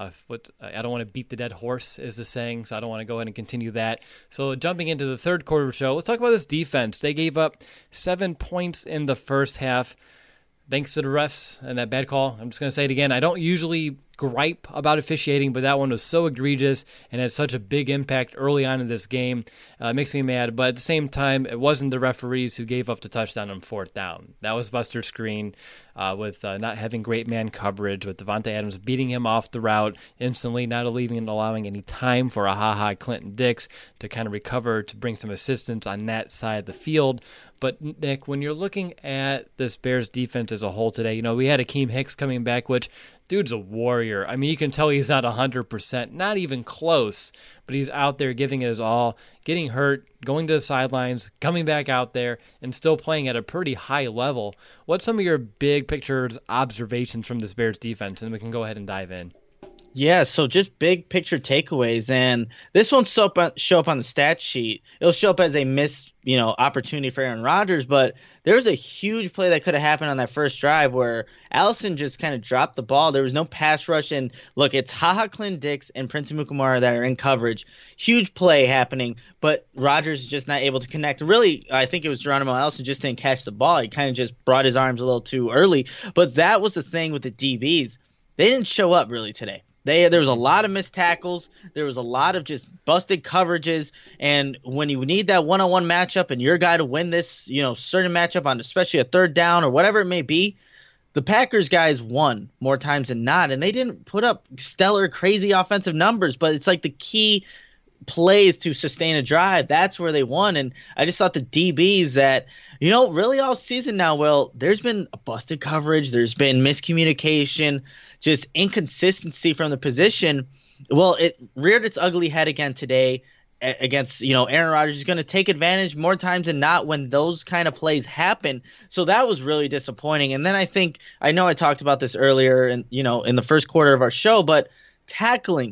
I don't want to beat the dead horse, is the saying, so I don't want to go ahead and continue that. So jumping into the third quarter of the show, let's talk about this defense. They gave up 7 points in the first half, thanks to the refs and that bad call. I'm just going to say it again. I don't usually gripe about officiating, but that one was so egregious and had such a big impact early on in this game. It makes me mad, but at the same time, it wasn't the referees who gave up the touchdown on fourth down. That was Buster Skrine with not having great man coverage, with Devontae Adams beating him off the route instantly, not allowing any time for a Clinton Dix to kind of recover, to bring some assistance on that side of the field. But, Nick, when you're looking at this Bears defense as a whole today, we had Akeem Hicks coming back, which dude's a warrior. I mean, you can tell he's not 100%, not even close, but he's out there giving it his all, getting hurt, going to the sidelines, coming back out there, and still playing at a pretty high level. What's some of your big picture observations from this Bears defense? And we can go ahead and dive in. Yeah, so just big picture takeaways, and this won't show up on the stat sheet. It'll show up as a missed, opportunity for Aaron Rodgers, but there was a huge play that could have happened on that first drive where Allison just kind of dropped the ball. There was no pass rush, and look, it's Clinton Dix and Prince Amukamara that are in coverage. Huge play happening, but Rodgers is just not able to connect. Really, I think it was Geronimo Allison just didn't catch the ball. He kind of just brought his arms a little too early, but that was the thing with the DBs. They didn't show up really today. There was a lot of missed tackles. There was a lot of just busted coverages. And when you need that one-on-one matchup and your guy to win this, certain matchup on especially a third down or whatever it may be, the Packers guys won more times than not. And they didn't put up stellar, crazy offensive numbers, but it's like the key plays to sustain a drive. That's where they won. And I just thought the DBs that, really all season now, Will, there's been a busted coverage. There's been miscommunication, just inconsistency from the position. Well, it reared its ugly head again today against, Aaron Rodgers is going to take advantage more times than not when those kind of plays happen. So that was really disappointing. And then I know I talked about this earlier in the first quarter of our show, but tackling,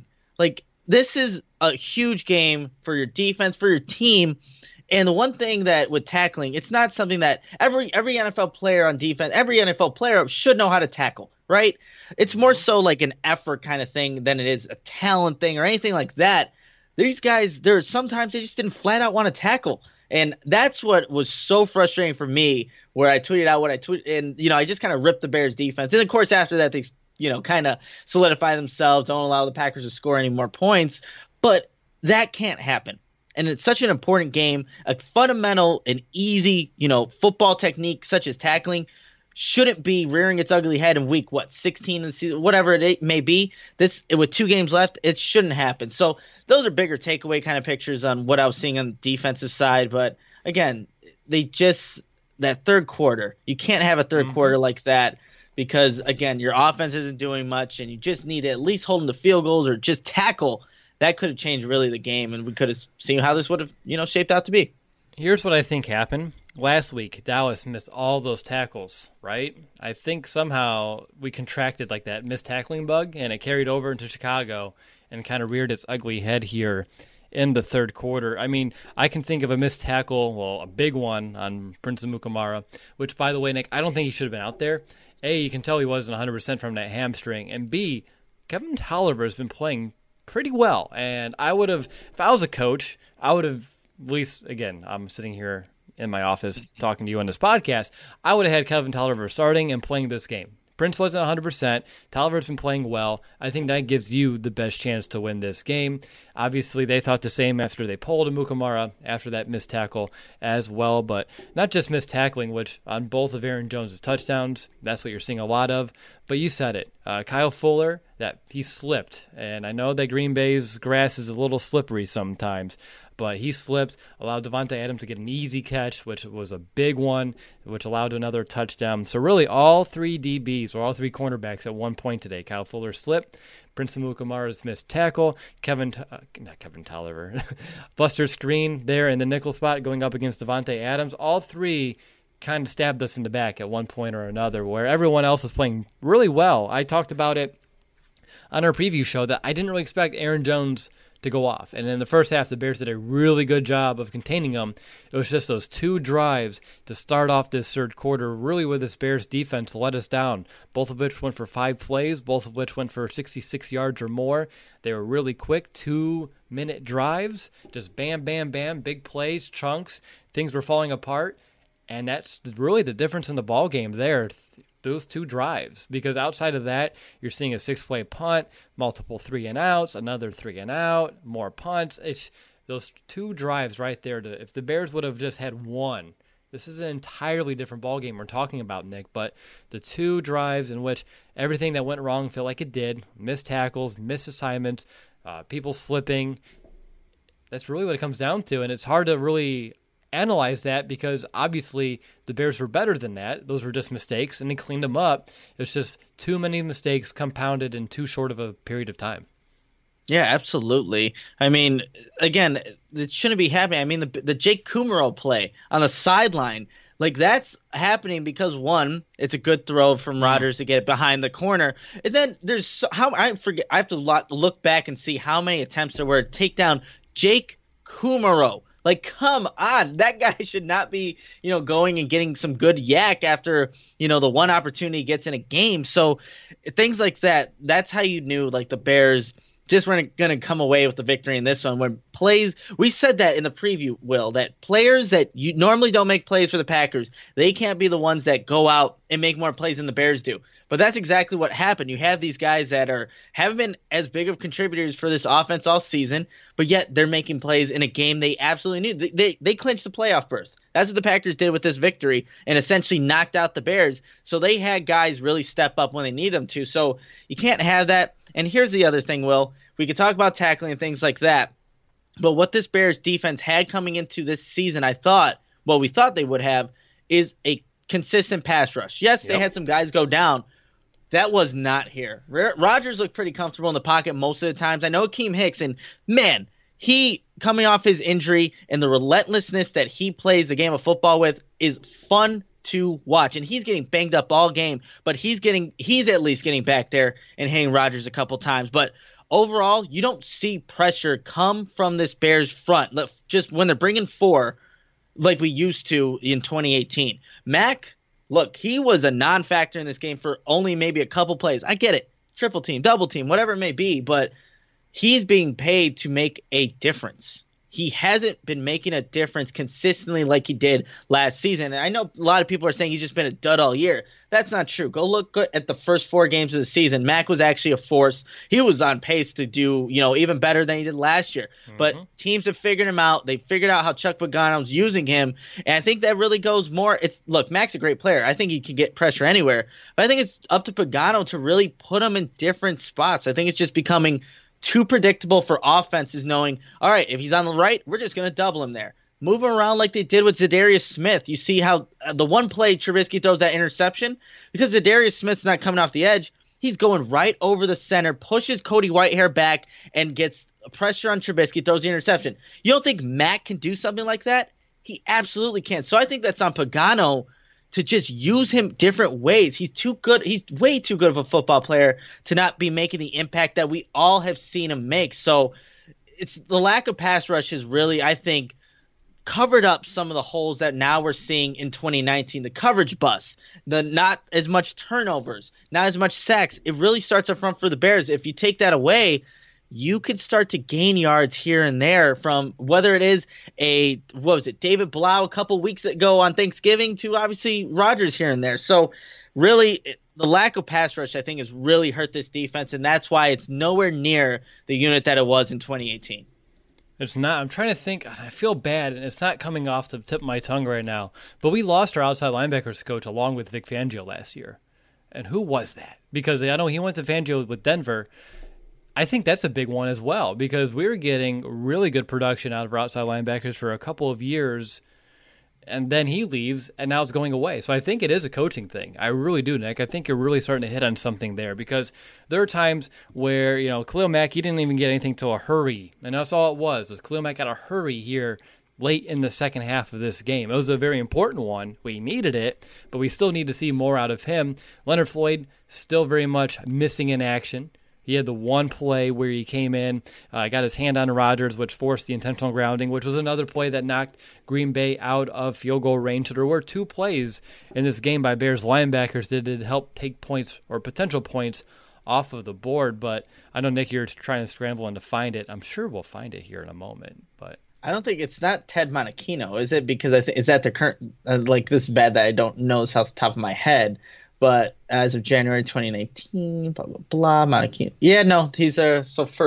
this is a huge game for your defense, for your team. And the one thing that with tackling, it's not something that every NFL player on defense, every NFL player should know how to tackle, right? It's more so like an effort kind of thing than it is a talent thing or anything like that. These guys, sometimes they just didn't flat out want to tackle. And that's what was so frustrating for me, where I tweeted out what I tweeted. And, I just kind of ripped the Bears defense. And of course, after that, they kind of solidify themselves, don't allow the Packers to score any more points. But that can't happen. And it's such an important game. A fundamental and easy, football technique such as tackling shouldn't be rearing its ugly head in week 16 in the season, whatever it may be. This with 2 games left, it shouldn't happen. So those are bigger takeaway kind of pictures on what I was seeing on the defensive side. But again, that third quarter, you can't have a third quarter like that, because again, your offense isn't doing much, and you just need to at least hold them to field goals or just tackle. That could have changed really the game, and we could have seen how this would have, shaped out to be. Here's what I think happened. Last week, Dallas missed all those tackles, right? I think somehow we contracted like that missed tackling bug, and it carried over into Chicago and kind of reared its ugly head here in the third quarter. I mean, I can think of a missed tackle, a big one on Prince Amukamara, which, by the way, Nick, I don't think he should have been out there. A, you can tell he wasn't 100% from that hamstring, and B, Kevin Tolliver has been playing pretty well. And I would have, if I was a coach, I would have at least, again, I'm sitting here in my office talking to you on this podcast, I would have had Kevin Tolliver starting and playing this game. Prince wasn't 100%. Tolliver's been playing well. I think that gives you the best chance to win this game. Obviously, they thought the same after they pulled Amukamara after that missed tackle as well, but not just missed tackling, which on both of Aaron Jones' touchdowns, that's what you're seeing a lot of. But you said it. Kyle Fuller that he slipped. And I know that Green Bay's grass is a little slippery sometimes, but he slipped, allowed Davante Adams to get an easy catch, which was a big one, which allowed another touchdown. So really all three DBs, or all three cornerbacks at one point today. Kyle Fuller slipped, Prince Amukamara's missed tackle, not Kevin Tolliver, Buster Screen there in the nickel spot going up against Davante Adams. All three kind of stabbed us in the back at one point or another, where everyone else was playing really well. I talked about it on our preview show that I didn't really expect Aaron Jones to go off. And in the first half, the Bears did a really good job of containing him. It was just those two drives to start off this third quarter, really where this Bears defense let us down, both of which went for 5 plays, both of which went for 66 yards or more. They were really quick, 2-minute drives, just bam, bam, bam, big plays, chunks. Things were falling apart. And that's really the difference in the ball game there, those two drives. Because outside of that, you're seeing a 6-play punt, multiple 3-and-outs, another 3-and-out, more punts. It's those two drives right there. If the Bears would have just had one, this is an entirely different ball game we're talking about, Nick. But the two drives in which everything that went wrong felt like it did, missed tackles, missed assignments, people slipping, that's really what it comes down to. And it's hard to really analyze that because obviously the Bears were better than that. Those were just mistakes, and they cleaned them up. It's just too many mistakes compounded in too short of a period of time. Yeah, absolutely. I mean, again, it shouldn't be happening. I mean, the Jake Kumaro play on the sideline, like that's happening because one, it's a good throw from Rodgers to get behind the corner, and then there's I have to look back and see how many attempts there were to take down Jake Kumaro. Like, come on, that guy should not be, going and getting some good yak after, the one opportunity he gets in a game. So things like that, that's how you knew, like, the Bears just weren't going to come away with the victory in this one. When plays, we said that in the preview, Will, that players that you normally don't make plays for the Packers, they can't be the ones that go out and make more plays than the Bears do. But that's exactly what happened. You have these guys that haven't been as big of contributors for this offense all season, but yet they're making plays in a game they absolutely need. They clinched the playoff berth. That's what the Packers did with this victory and essentially knocked out the Bears. So they had guys really step up when they need them to. So you can't have that. And here's the other thing, Will. We could talk about tackling and things like that. But what this Bears defense had coming into this season, we thought they would have, is a consistent pass rush. Yes, they had some guys go down. That was not here. Rodgers looked pretty comfortable in the pocket most of the times. I know Akeem Hicks, and man, he coming off his injury and the relentlessness that he plays the game of football with is fun to watch. And he's getting banged up all game, but he's at least getting back there and hitting Rodgers a couple times. But overall, you don't see pressure come from this Bears front just when they're bringing 4 like we used to in 2018. Mac, look, he was a non-factor in this game for only maybe a couple plays. I get it. Triple team, double team, whatever it may be, but he's being paid to make a difference. He hasn't been making a difference consistently like he did last season. And I know a lot of people are saying he's just been a dud all year. That's not true. Go look at the first 4 games of the season. Mac was actually a force. He was on pace to do, even better than he did last year. Mm-hmm. But teams have figured him out. They figured out how Chuck Pagano's using him. And I think that really goes more. Look, Mac's a great player. I think he can get pressure anywhere. But I think it's up to Pagano to really put him in different spots. I think it's just becoming too predictable for offenses knowing, all right, if he's on the right, we're just going to double him there. Move him around like they did with Zadarius Smith. You see how the one play Trubisky throws that interception? Because Zadarius Smith's not coming off the edge. He's going right over the center, pushes Cody Whitehair back, and gets pressure on Trubisky, throws the interception. You don't think Mac can do something like that? He absolutely can. So I think that's on Pagano to just use him different ways. He's too good. He's way too good of a football player to not be making the impact that we all have seen him make. So it's the lack of pass rush has really, I think, covered up some of the holes that now we're seeing in 2019. The coverage bust, the not as much turnovers, not as much sacks. It really starts up front for the Bears. If you take that away, you could start to gain yards here and there from whether it is David Blau a couple weeks ago on Thanksgiving to obviously Rodgers here and there. So really the lack of pass rush, I think, has really hurt this defense, and that's why it's nowhere near the unit that it was in 2018. It's not. I'm trying to think. I feel bad, and it's not coming off the tip of my tongue right now. But we lost our outside linebackers coach along with Vic Fangio last year. And who was that? Because I know he went to Fangio with Denver. I think that's a big one as well, because we were getting really good production out of our outside linebackers for a couple of years, and then he leaves, and now it's going away. So I think it is a coaching thing. I really do, Nick. I think you're really starting to hit on something there, because there are times where, Khalil Mack, he didn't even get anything till a hurry, and that's all it was Khalil Mack got a hurry here late in the second half of this game. It was a very important one. We needed it, but we still need to see more out of him. Leonard Floyd, still very much missing in action. He had the one play where he came in, got his hand on Rodgers, which forced the intentional grounding, which was another play that knocked Green Bay out of field goal range. So there were two plays in this game by Bears linebackers that did help take points or potential points off of the board. But I know, Nick, you're trying to scramble and to find it. I'm sure we'll find it here in a moment. But I don't think it's not Ted Monachino, is it? Because I think is that the current this is bad that I don't know this off the top of my head. But as of January 2019, blah, blah, blah, Monachino. Yeah, no, he's our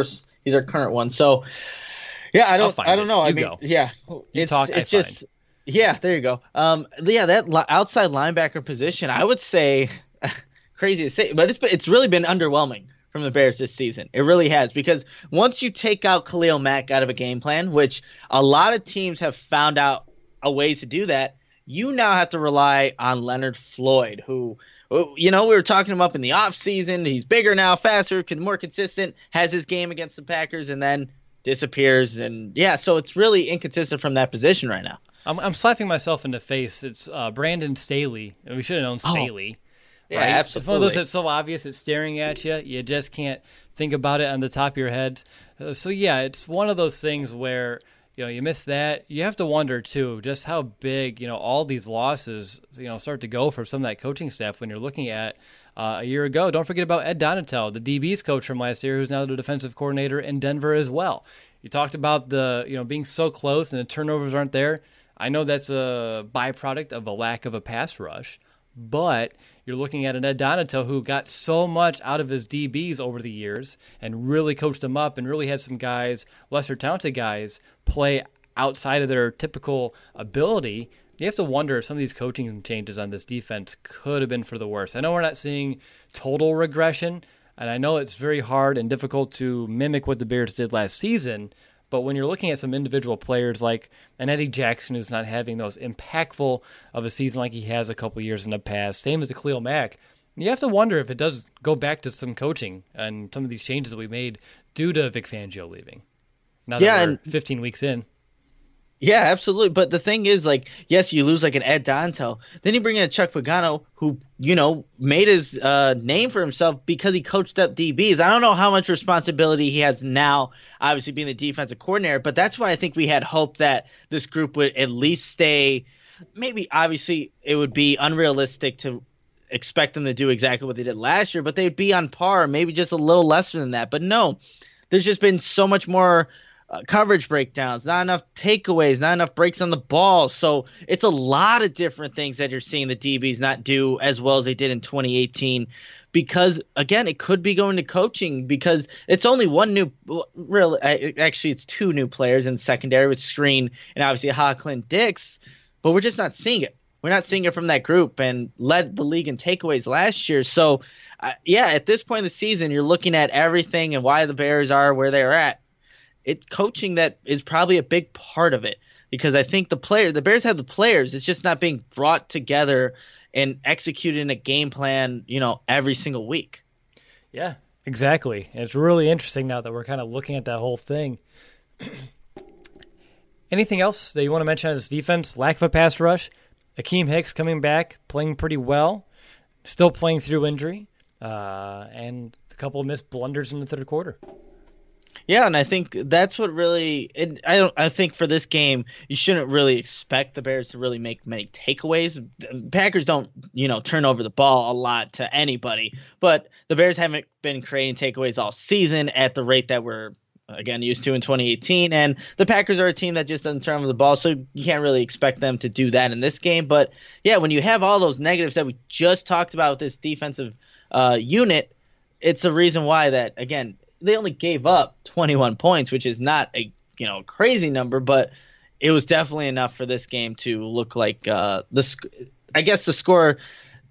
current one. So, yeah, I don't know. I mean, go. Yeah. It's just, yeah, there you go. That outside linebacker position, I would say, crazy to say, but it's really been underwhelming from the Bears this season. It really has, because once you take out Khalil Mack out of a game plan, which a lot of teams have found out a ways to do that, you now have to rely on Leonard Floyd, who, we were talking him up in the offseason. He's bigger now, faster, more consistent, has his game against the Packers, and then disappears. And, yeah, so it's really inconsistent from that position right now. I'm slapping myself in the face. It's Brandon Staley. We should have known Staley. Yeah, right? absolutely. It's one of those that's so obvious it's staring at you. You just can't think about it on the top of your head. So, yeah, it's one of those things where – you miss that. You have to wonder, too, just how big, all these losses, start to go for some of that coaching staff when you're looking at a year ago. Don't forget about Ed Donatel, the DB's coach from last year, who's now the defensive coordinator in Denver as well. You talked about the, being so close and the turnovers aren't there. I know that's a byproduct of a lack of a pass rush, but you're looking at an Ed Donatel who got so much out of his DBs over the years and really coached them up and really had some guys, lesser talented guys, play outside of their typical ability. You have to wonder if some of these coaching changes on this defense could have been for the worse. I know we're not seeing total regression, and I know it's very hard and difficult to mimic what the Bears did last season, but when you're looking at some individual players like an Eddie Jackson who's not having those impactful of a season like he has a couple years in the past, same as the Khalil Mack, you have to wonder if it does go back to some coaching and some of these changes that we made due to Vic Fangio leaving. Now that we're 15 weeks in. Yeah, absolutely. But the thing is, yes, you lose an Ed Donatel. Then you bring in a Chuck Pagano who, made his name for himself because he coached up DBs. I don't know how much responsibility he has now, obviously being the defensive coordinator, but that's why I think we had hope that this group would at least stay. Maybe, obviously, it would be unrealistic to expect them to do exactly what they did last year, but they'd be on par, maybe just a little lesser than that. But no, there's just been so much more coverage breakdowns, not enough takeaways, not enough breaks on the ball. So it's a lot of different things that you're seeing the DBs not do as well as they did in 2018 because, again, it could be going to coaching because it's only it's two new players in secondary with Screen and obviously Clint Dix, but we're just not seeing it. We're not seeing it from that group and led the league in takeaways last year. So, at this point in the season, you're looking at everything and why the Bears are where they're at. It's coaching that is probably a big part of it because I think the Bears have the players. It's just not being brought together and executed in a game plan, every single week. Yeah, exactly. And it's really interesting now that we're kind of looking at that whole thing. Anything else that you want to mention on this defense? Lack of a pass rush. Akeem Hicks coming back, playing pretty well, still playing through injury, and a couple of missed blunders in the third quarter. Yeah, and I think that's what really I think for this game you shouldn't really expect the Bears to really make many takeaways. Packers don't, turn over the ball a lot to anybody, but the Bears haven't been creating takeaways all season at the rate that we're again used to in 2018, and the Packers are a team that just doesn't turn over the ball, so you can't really expect them to do that in this game. But yeah, when you have all those negatives that we just talked about with this defensive unit, it's a reason why that, again, they only gave up 21 points, which is not a crazy number, but it was definitely enough for this game to look like the score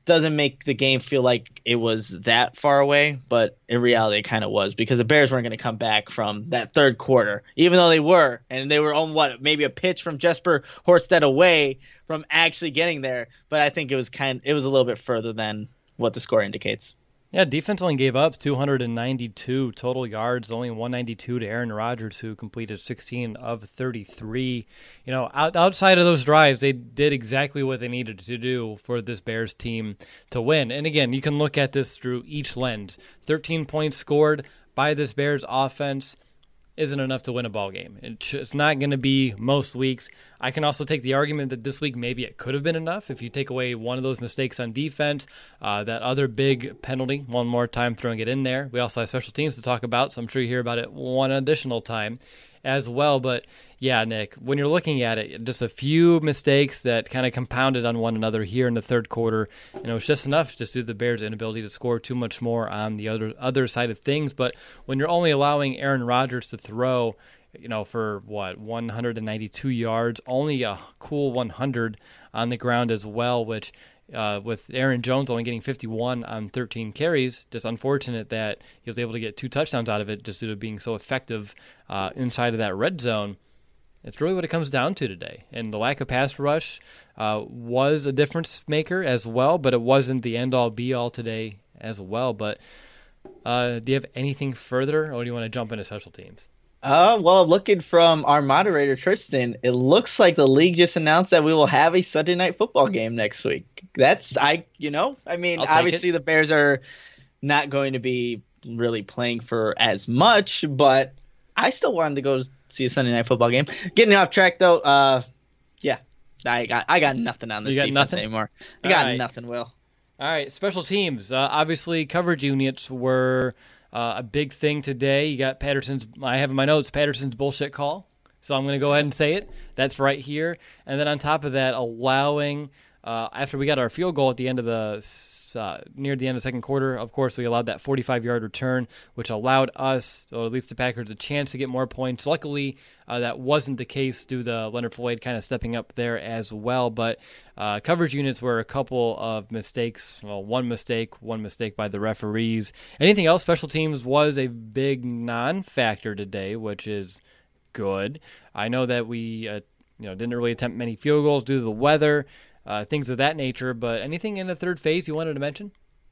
doesn't make the game feel like it was that far away, but in reality it kind of was, because the Bears weren't going to come back from that third quarter, even though they were, and they were on maybe a pitch from Jesper Horsted away from actually getting there. But I think it was a little bit further than what the score indicates. Yeah, defense only gave up 292 total yards, only 192 to Aaron Rodgers, who completed 16 of 33. Outside of those drives, they did exactly what they needed to do for this Bears team to win. And again, you can look at this through each lens. 13 points scored by this Bears offense isn't enough to win a ball game. It's not going to be most weeks. I can also take the argument that this week maybe it could have been enough if you take away one of those mistakes on defense, that other big penalty, one more time throwing it in there. We also have special teams to talk about, so I'm sure you hear about it one additional time as well. But yeah, Nick, when you're looking at it, just a few mistakes that kind of compounded on one another here in the third quarter, it was just enough just due to the Bears' inability to score too much more on the other side of things. But when you're only allowing Aaron Rodgers to throw, for 192 yards, only a cool 100 on the ground as well, which with Aaron Jones only getting 51 on 13 carries, just unfortunate that he was able to get 2 touchdowns out of it just due to being so effective inside of that red zone. It's really what it comes down to today. And the lack of pass rush was a difference maker as well, but it wasn't the end-all, be-all today as well. But do you have anything further, or do you want to jump into special teams? Well, looking from our moderator, Tristan, it looks like the league just announced that we will have a Sunday night football game next week. Obviously the Bears are not going to be really playing for as much, but I still wanted to go see a Sunday night football game. Getting off track though, I got nothing on this defense anymore. I got nothing, Will. All right, special teams. Obviously, coverage units were a big thing today. You got I have in my notes, Patterson's bullshit call. So I'm going to go ahead and say it. That's right here. And then on top of that, allowing, after we got our field goal at the end of near the end of the second quarter, of course, we allowed that 45-yard return, which allowed us, or at least the Packers, a chance to get more points. Luckily, that wasn't the case due to Leonard Floyd kind of stepping up there as well. But coverage units were a couple of mistakes. Well, one mistake by the referees. Anything else? Special teams was a big non-factor today, which is good. I know that we didn't really attempt many field goals due to the weather. Things of that nature, but anything in the third phase you wanted to mention?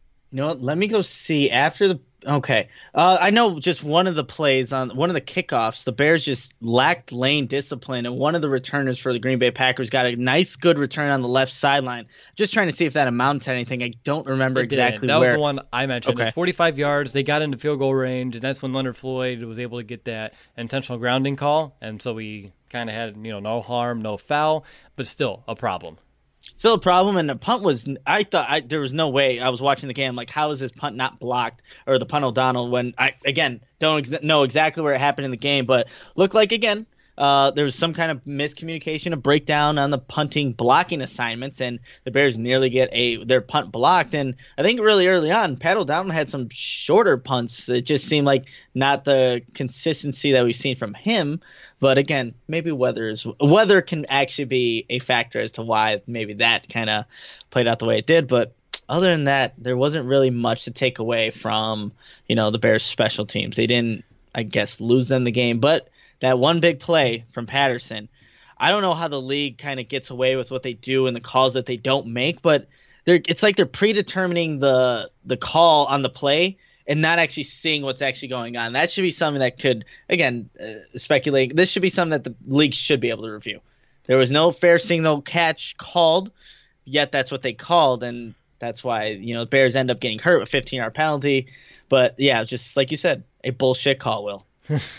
Let me go see after the. Okay, I know just one of the plays on one of the kickoffs, the Bears just lacked lane discipline, and one of the returners for the Green Bay Packers got a nice, good return on the left sideline. Just trying to see if that amounted to anything. I don't remember exactly where. That was the one I mentioned. Okay. It's 45 yards. They got into field goal range, and that's when Leonard Floyd was able to get that intentional grounding call, and so we kind of had no harm, no foul, but still a problem. Still a problem, and the punt was – I thought there was no way. I was watching the game, like, how is this punt not blocked, or the punt O'Donnell, when I, again, don't know exactly where it happened in the game, but looked like, again, there was some kind of miscommunication, a breakdown on the punting blocking assignments, and the Bears nearly get their punt blocked. And I think really early on, Pat O'Donnell had some shorter punts. It just seemed like not the consistency that we've seen from him. But again, maybe weather can actually be a factor as to why maybe that kind of played out the way it did. But other than that, there wasn't really much to take away from, the Bears' special teams. They didn't, I guess, lose them the game. But that one big play from Patterson, I don't know how the league kind of gets away with what they do and the calls that they don't make, but it's like they're predetermining the call on the play and not actually seeing what's actually going on. That should be something that could, again, speculate. This should be something that the league should be able to review. There was no fair signal catch called, yet that's what they called, and that's why the Bears end up getting hurt with a 15-yard penalty. But, yeah, just like you said, a bullshit call, Will.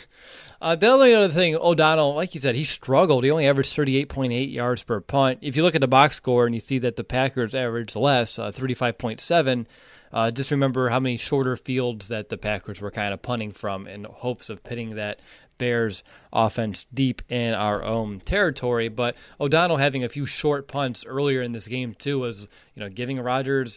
The only other thing, O'Donnell, like you said, he struggled. He only averaged 38.8 yards per punt. If you look at the box score and you see that the Packers averaged less, 35.7, just remember how many shorter fields that the Packers were kind of punting from in hopes of pitting that Bears offense deep in our own territory. But O'Donnell having a few short punts earlier in this game too was, giving Rodgers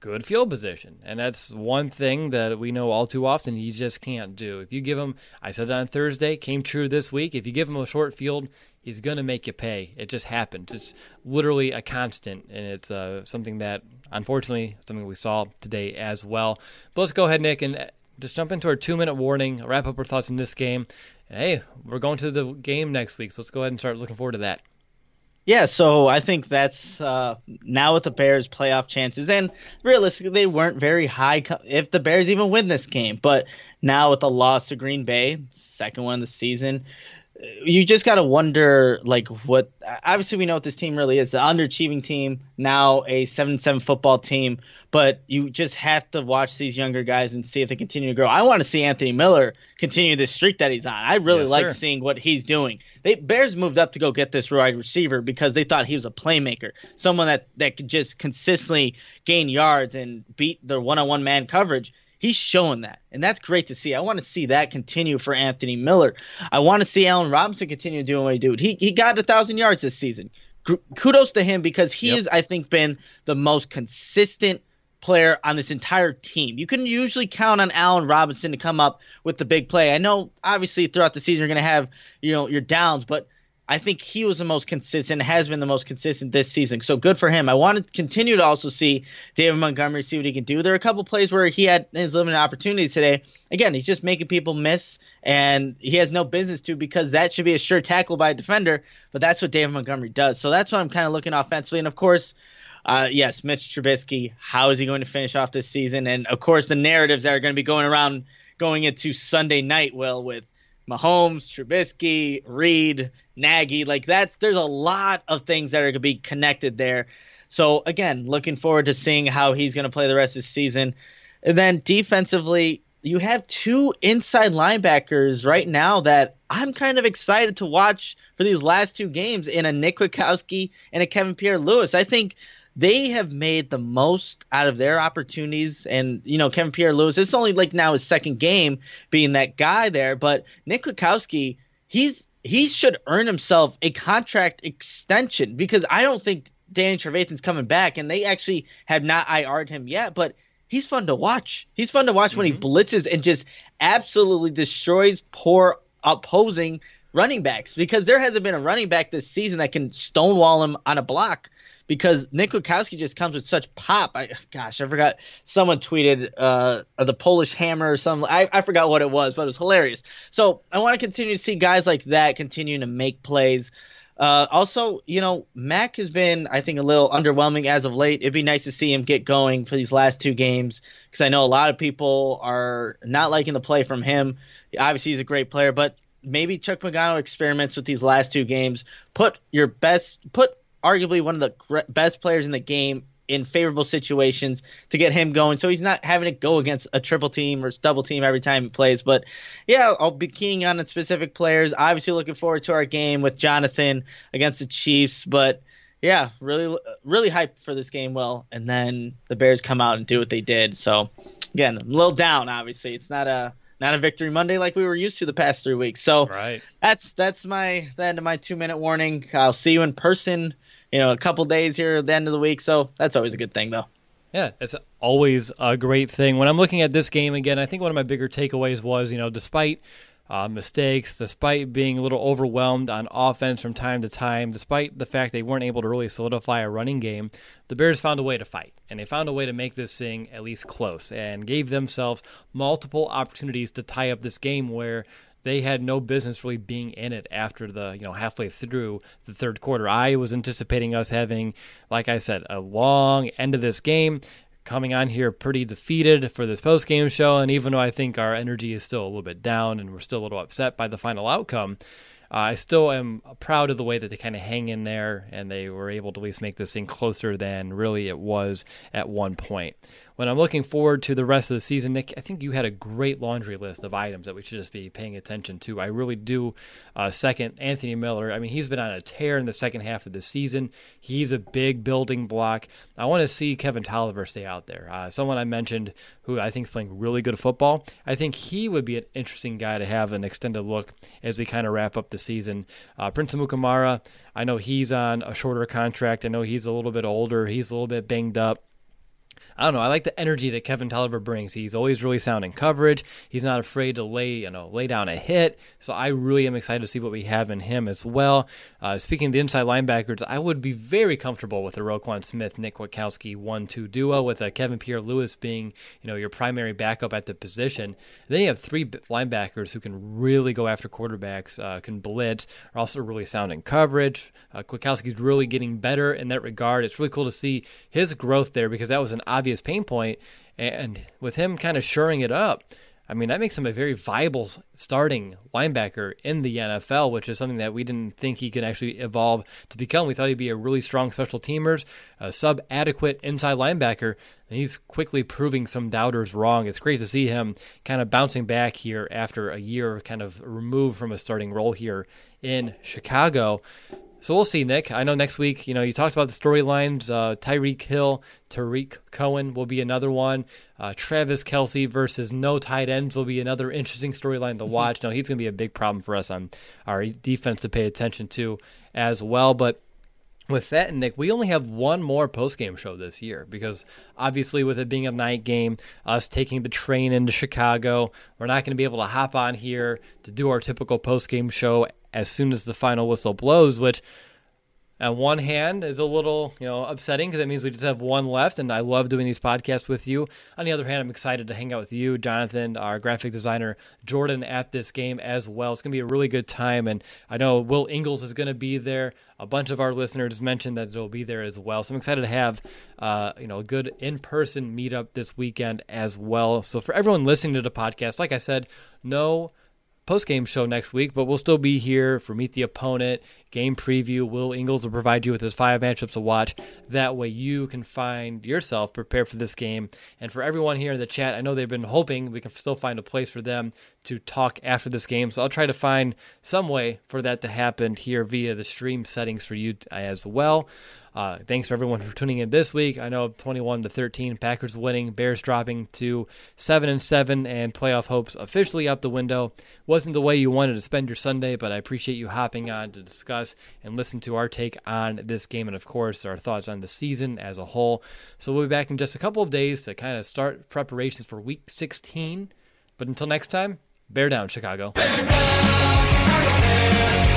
good field position. And that's one thing that we know all too often he just can't do. If you give him, I said it on Thursday, came true this week, if you give him a short field, he's going to make you pay. It just happens. It's literally a constant, and it's something that, unfortunately, something we saw today as well. But let's go ahead, Nick, and just jump into our 2-minute warning, wrap up our thoughts in this game. And hey, we're going to the game next week, so let's go ahead and start looking forward to that. Yeah, so I think that's now with the Bears' playoff chances, and realistically, they weren't very high if the Bears even win this game. But now with the loss to Green Bay, second one of the season, you just got to wonder, like, what – obviously we know what this team really is, the underachieving team, now a 7-7 football team, but you just have to watch these younger guys and see if they continue to grow. I want to see Anthony Miller continue this streak that he's on. I really like seeing what he's doing. Bears moved up to go get this wide receiver because they thought he was a playmaker, someone that could just consistently gain yards and beat their one-on-one man coverage. He's showing that, and that's great to see. I want to see that continue for Anthony Miller. I want to see Allen Robinson continue doing what he did. He got 1,000 yards this season. Kudos to him because he has, I think, been the most consistent player on this entire team. You can usually count on Allen Robinson to come up with the big play. I know, obviously, throughout the season you're going to have, your downs, but I think he was the most consistent, has been the most consistent this season. So good for him. I want to continue to also see David Montgomery, see what he can do. There are a couple plays where he had his limited opportunities today. Again, he's just making people miss, and he has no business to because that should be a sure tackle by a defender, but that's what David Montgomery does. So that's what I'm kind of looking offensively. And, of course, yes, Mitch Trubisky, how is he going to finish off this season? And, of course, the narratives that are going to be going around going into Sunday night, with Mahomes, Trubisky, Reed, Nagy, there's a lot of things that are going to be connected there. So again, looking forward to seeing how he's going to play the rest of the season. And then defensively, you have two inside linebackers right now that I'm kind of excited to watch for these last two games in a Nick Kwiatkowski and a Kevin Pierre-Louis. I think they have made the most out of their opportunities. And, Kevin Pierre-Louis, it's only now his second game being that guy there. But Nick Kwiatkowski, he should earn himself a contract extension because I don't think Danny Trevathan's coming back. And they actually have not IR'd him yet. But he's fun to watch. He's fun to watch when he blitzes and just absolutely destroys poor opposing running backs because there hasn't been a running back this season that can stonewall him on a block. Because Nick Kwiatkowski just comes with such pop. I forgot. Someone tweeted the Polish Hammer or something. I forgot what it was, but it was hilarious. So I want to continue to see guys like that continuing to make plays. Also, Mac has been, I think, a little underwhelming as of late. It'd be nice to see him get going for these last two games because I know a lot of people are not liking the play from him. Obviously, he's a great player, but maybe Chuck Pagano experiments with these last two games. Put arguably one of the best players in the game in favorable situations to get him going so he's not having to go against a triple team or double team every time he plays. But, yeah, I'll be keying on specific players. Obviously looking forward to our game with Jonathan against the Chiefs. But, yeah, really, really hyped for this game, and then the Bears come out and do what they did. So, again, I'm a little down, obviously. It's not a Victory Monday like we were used to the past 3 weeks. So that's the end of my 2-minute warning. I'll see you in person a couple days here at the end of the week. So that's always a good thing, though. Yeah, it's always a great thing. When I'm looking at this game again, I think one of my bigger takeaways was, despite mistakes, despite being a little overwhelmed on offense from time to time, despite the fact they weren't able to really solidify a running game, the Bears found a way to fight. And they found a way to make this thing at least close and gave themselves multiple opportunities to tie up this game where they had no business really being in it after the, halfway through the third quarter. I was anticipating us having, like I said, a long end of this game, coming on here pretty defeated for this post-game show. And even though I think our energy is still a little bit down and we're still a little upset by the final outcome, I still am proud of the way that they kind of hang in there and they were able to at least make this thing closer than really it was at one point. When I'm looking forward to the rest of the season, Nick, I think you had a great laundry list of items that we should just be paying attention to. I really do second Anthony Miller. I mean, he's been on a tear in the second half of the season. He's a big building block. I want to see Kevin Tolliver stay out there. Someone I mentioned who I think is playing really good football. I think he would be an interesting guy to have an extended look as we kind of wrap up the season. Prince Amukamara, I know he's on a shorter contract. I know he's a little bit older. He's a little bit banged up. I don't know. I like the energy that Kevin Tolliver brings. He's always really sound in coverage. He's not afraid to lay down a hit. So I really am excited to see what we have in him as well. Speaking of the inside linebackers, I would be very comfortable with the Roquan Smith, Nick Kwiatkowski 1-2 duo, with Kevin Pierre-Louis being your primary backup at the position. Then you have three linebackers who can really go after quarterbacks, can blitz, are also really sound in coverage. Kwiatkowski's really getting better in that regard. It's really cool to see his growth there because that was an obvious pain point, and with him kind of shoring it up, I mean, that makes him a very viable starting linebacker in the NFL, which is something that we didn't think he could actually evolve to become. We thought he'd be a really strong special teamer, a sub-adequate inside linebacker, and he's quickly proving some doubters wrong. It's great to see him kind of bouncing back here after a year kind of removed from a starting role here in Chicago. So we'll see, Nick. I know next week, you talked about the storylines. Tyreek Hill, Tariq Cohen will be another one. Travis Kelce versus no tight ends will be another interesting storyline to watch. No, he's going to be a big problem for us on our defense to pay attention to as well. But with that, Nick, we only have one more postgame show this year because obviously with it being a night game, us taking the train into Chicago, we're not going to be able to hop on here to do our typical postgame show as soon as the final whistle blows, which on one hand is a little, upsetting because it means we just have one left, and I love doing these podcasts with you. On the other hand, I'm excited to hang out with you, Jonathan, our graphic designer, Jordan, at this game as well. It's going to be a really good time, and I know Will Ingles is going to be there. A bunch of our listeners mentioned that they'll be there as well, so I'm excited to have a good in-person meetup this weekend as well. So for everyone listening to the podcast, like I said, no post-game show next week, but we'll still be here for Meet the Opponent, game preview. Will Ingles will provide you with his 5 matchups to watch. That way you can find yourself prepared for this game. And for everyone here in the chat, I know they've been hoping we can still find a place for them to talk after this game, so I'll try to find some way for that to happen here via the stream settings for you as well. Thanks for everyone for tuning in this week. I know 21-13, Packers winning, Bears dropping to 7-7, and playoff hopes officially out the window. Wasn't the way you wanted to spend your Sunday, but I appreciate you hopping on to discuss and listen to our take on this game and, of course, our thoughts on the season as a whole. So we'll be back in just a couple of days to kind of start preparations for Week 16. But until next time, bear down, Chicago. Bear down, Chicago.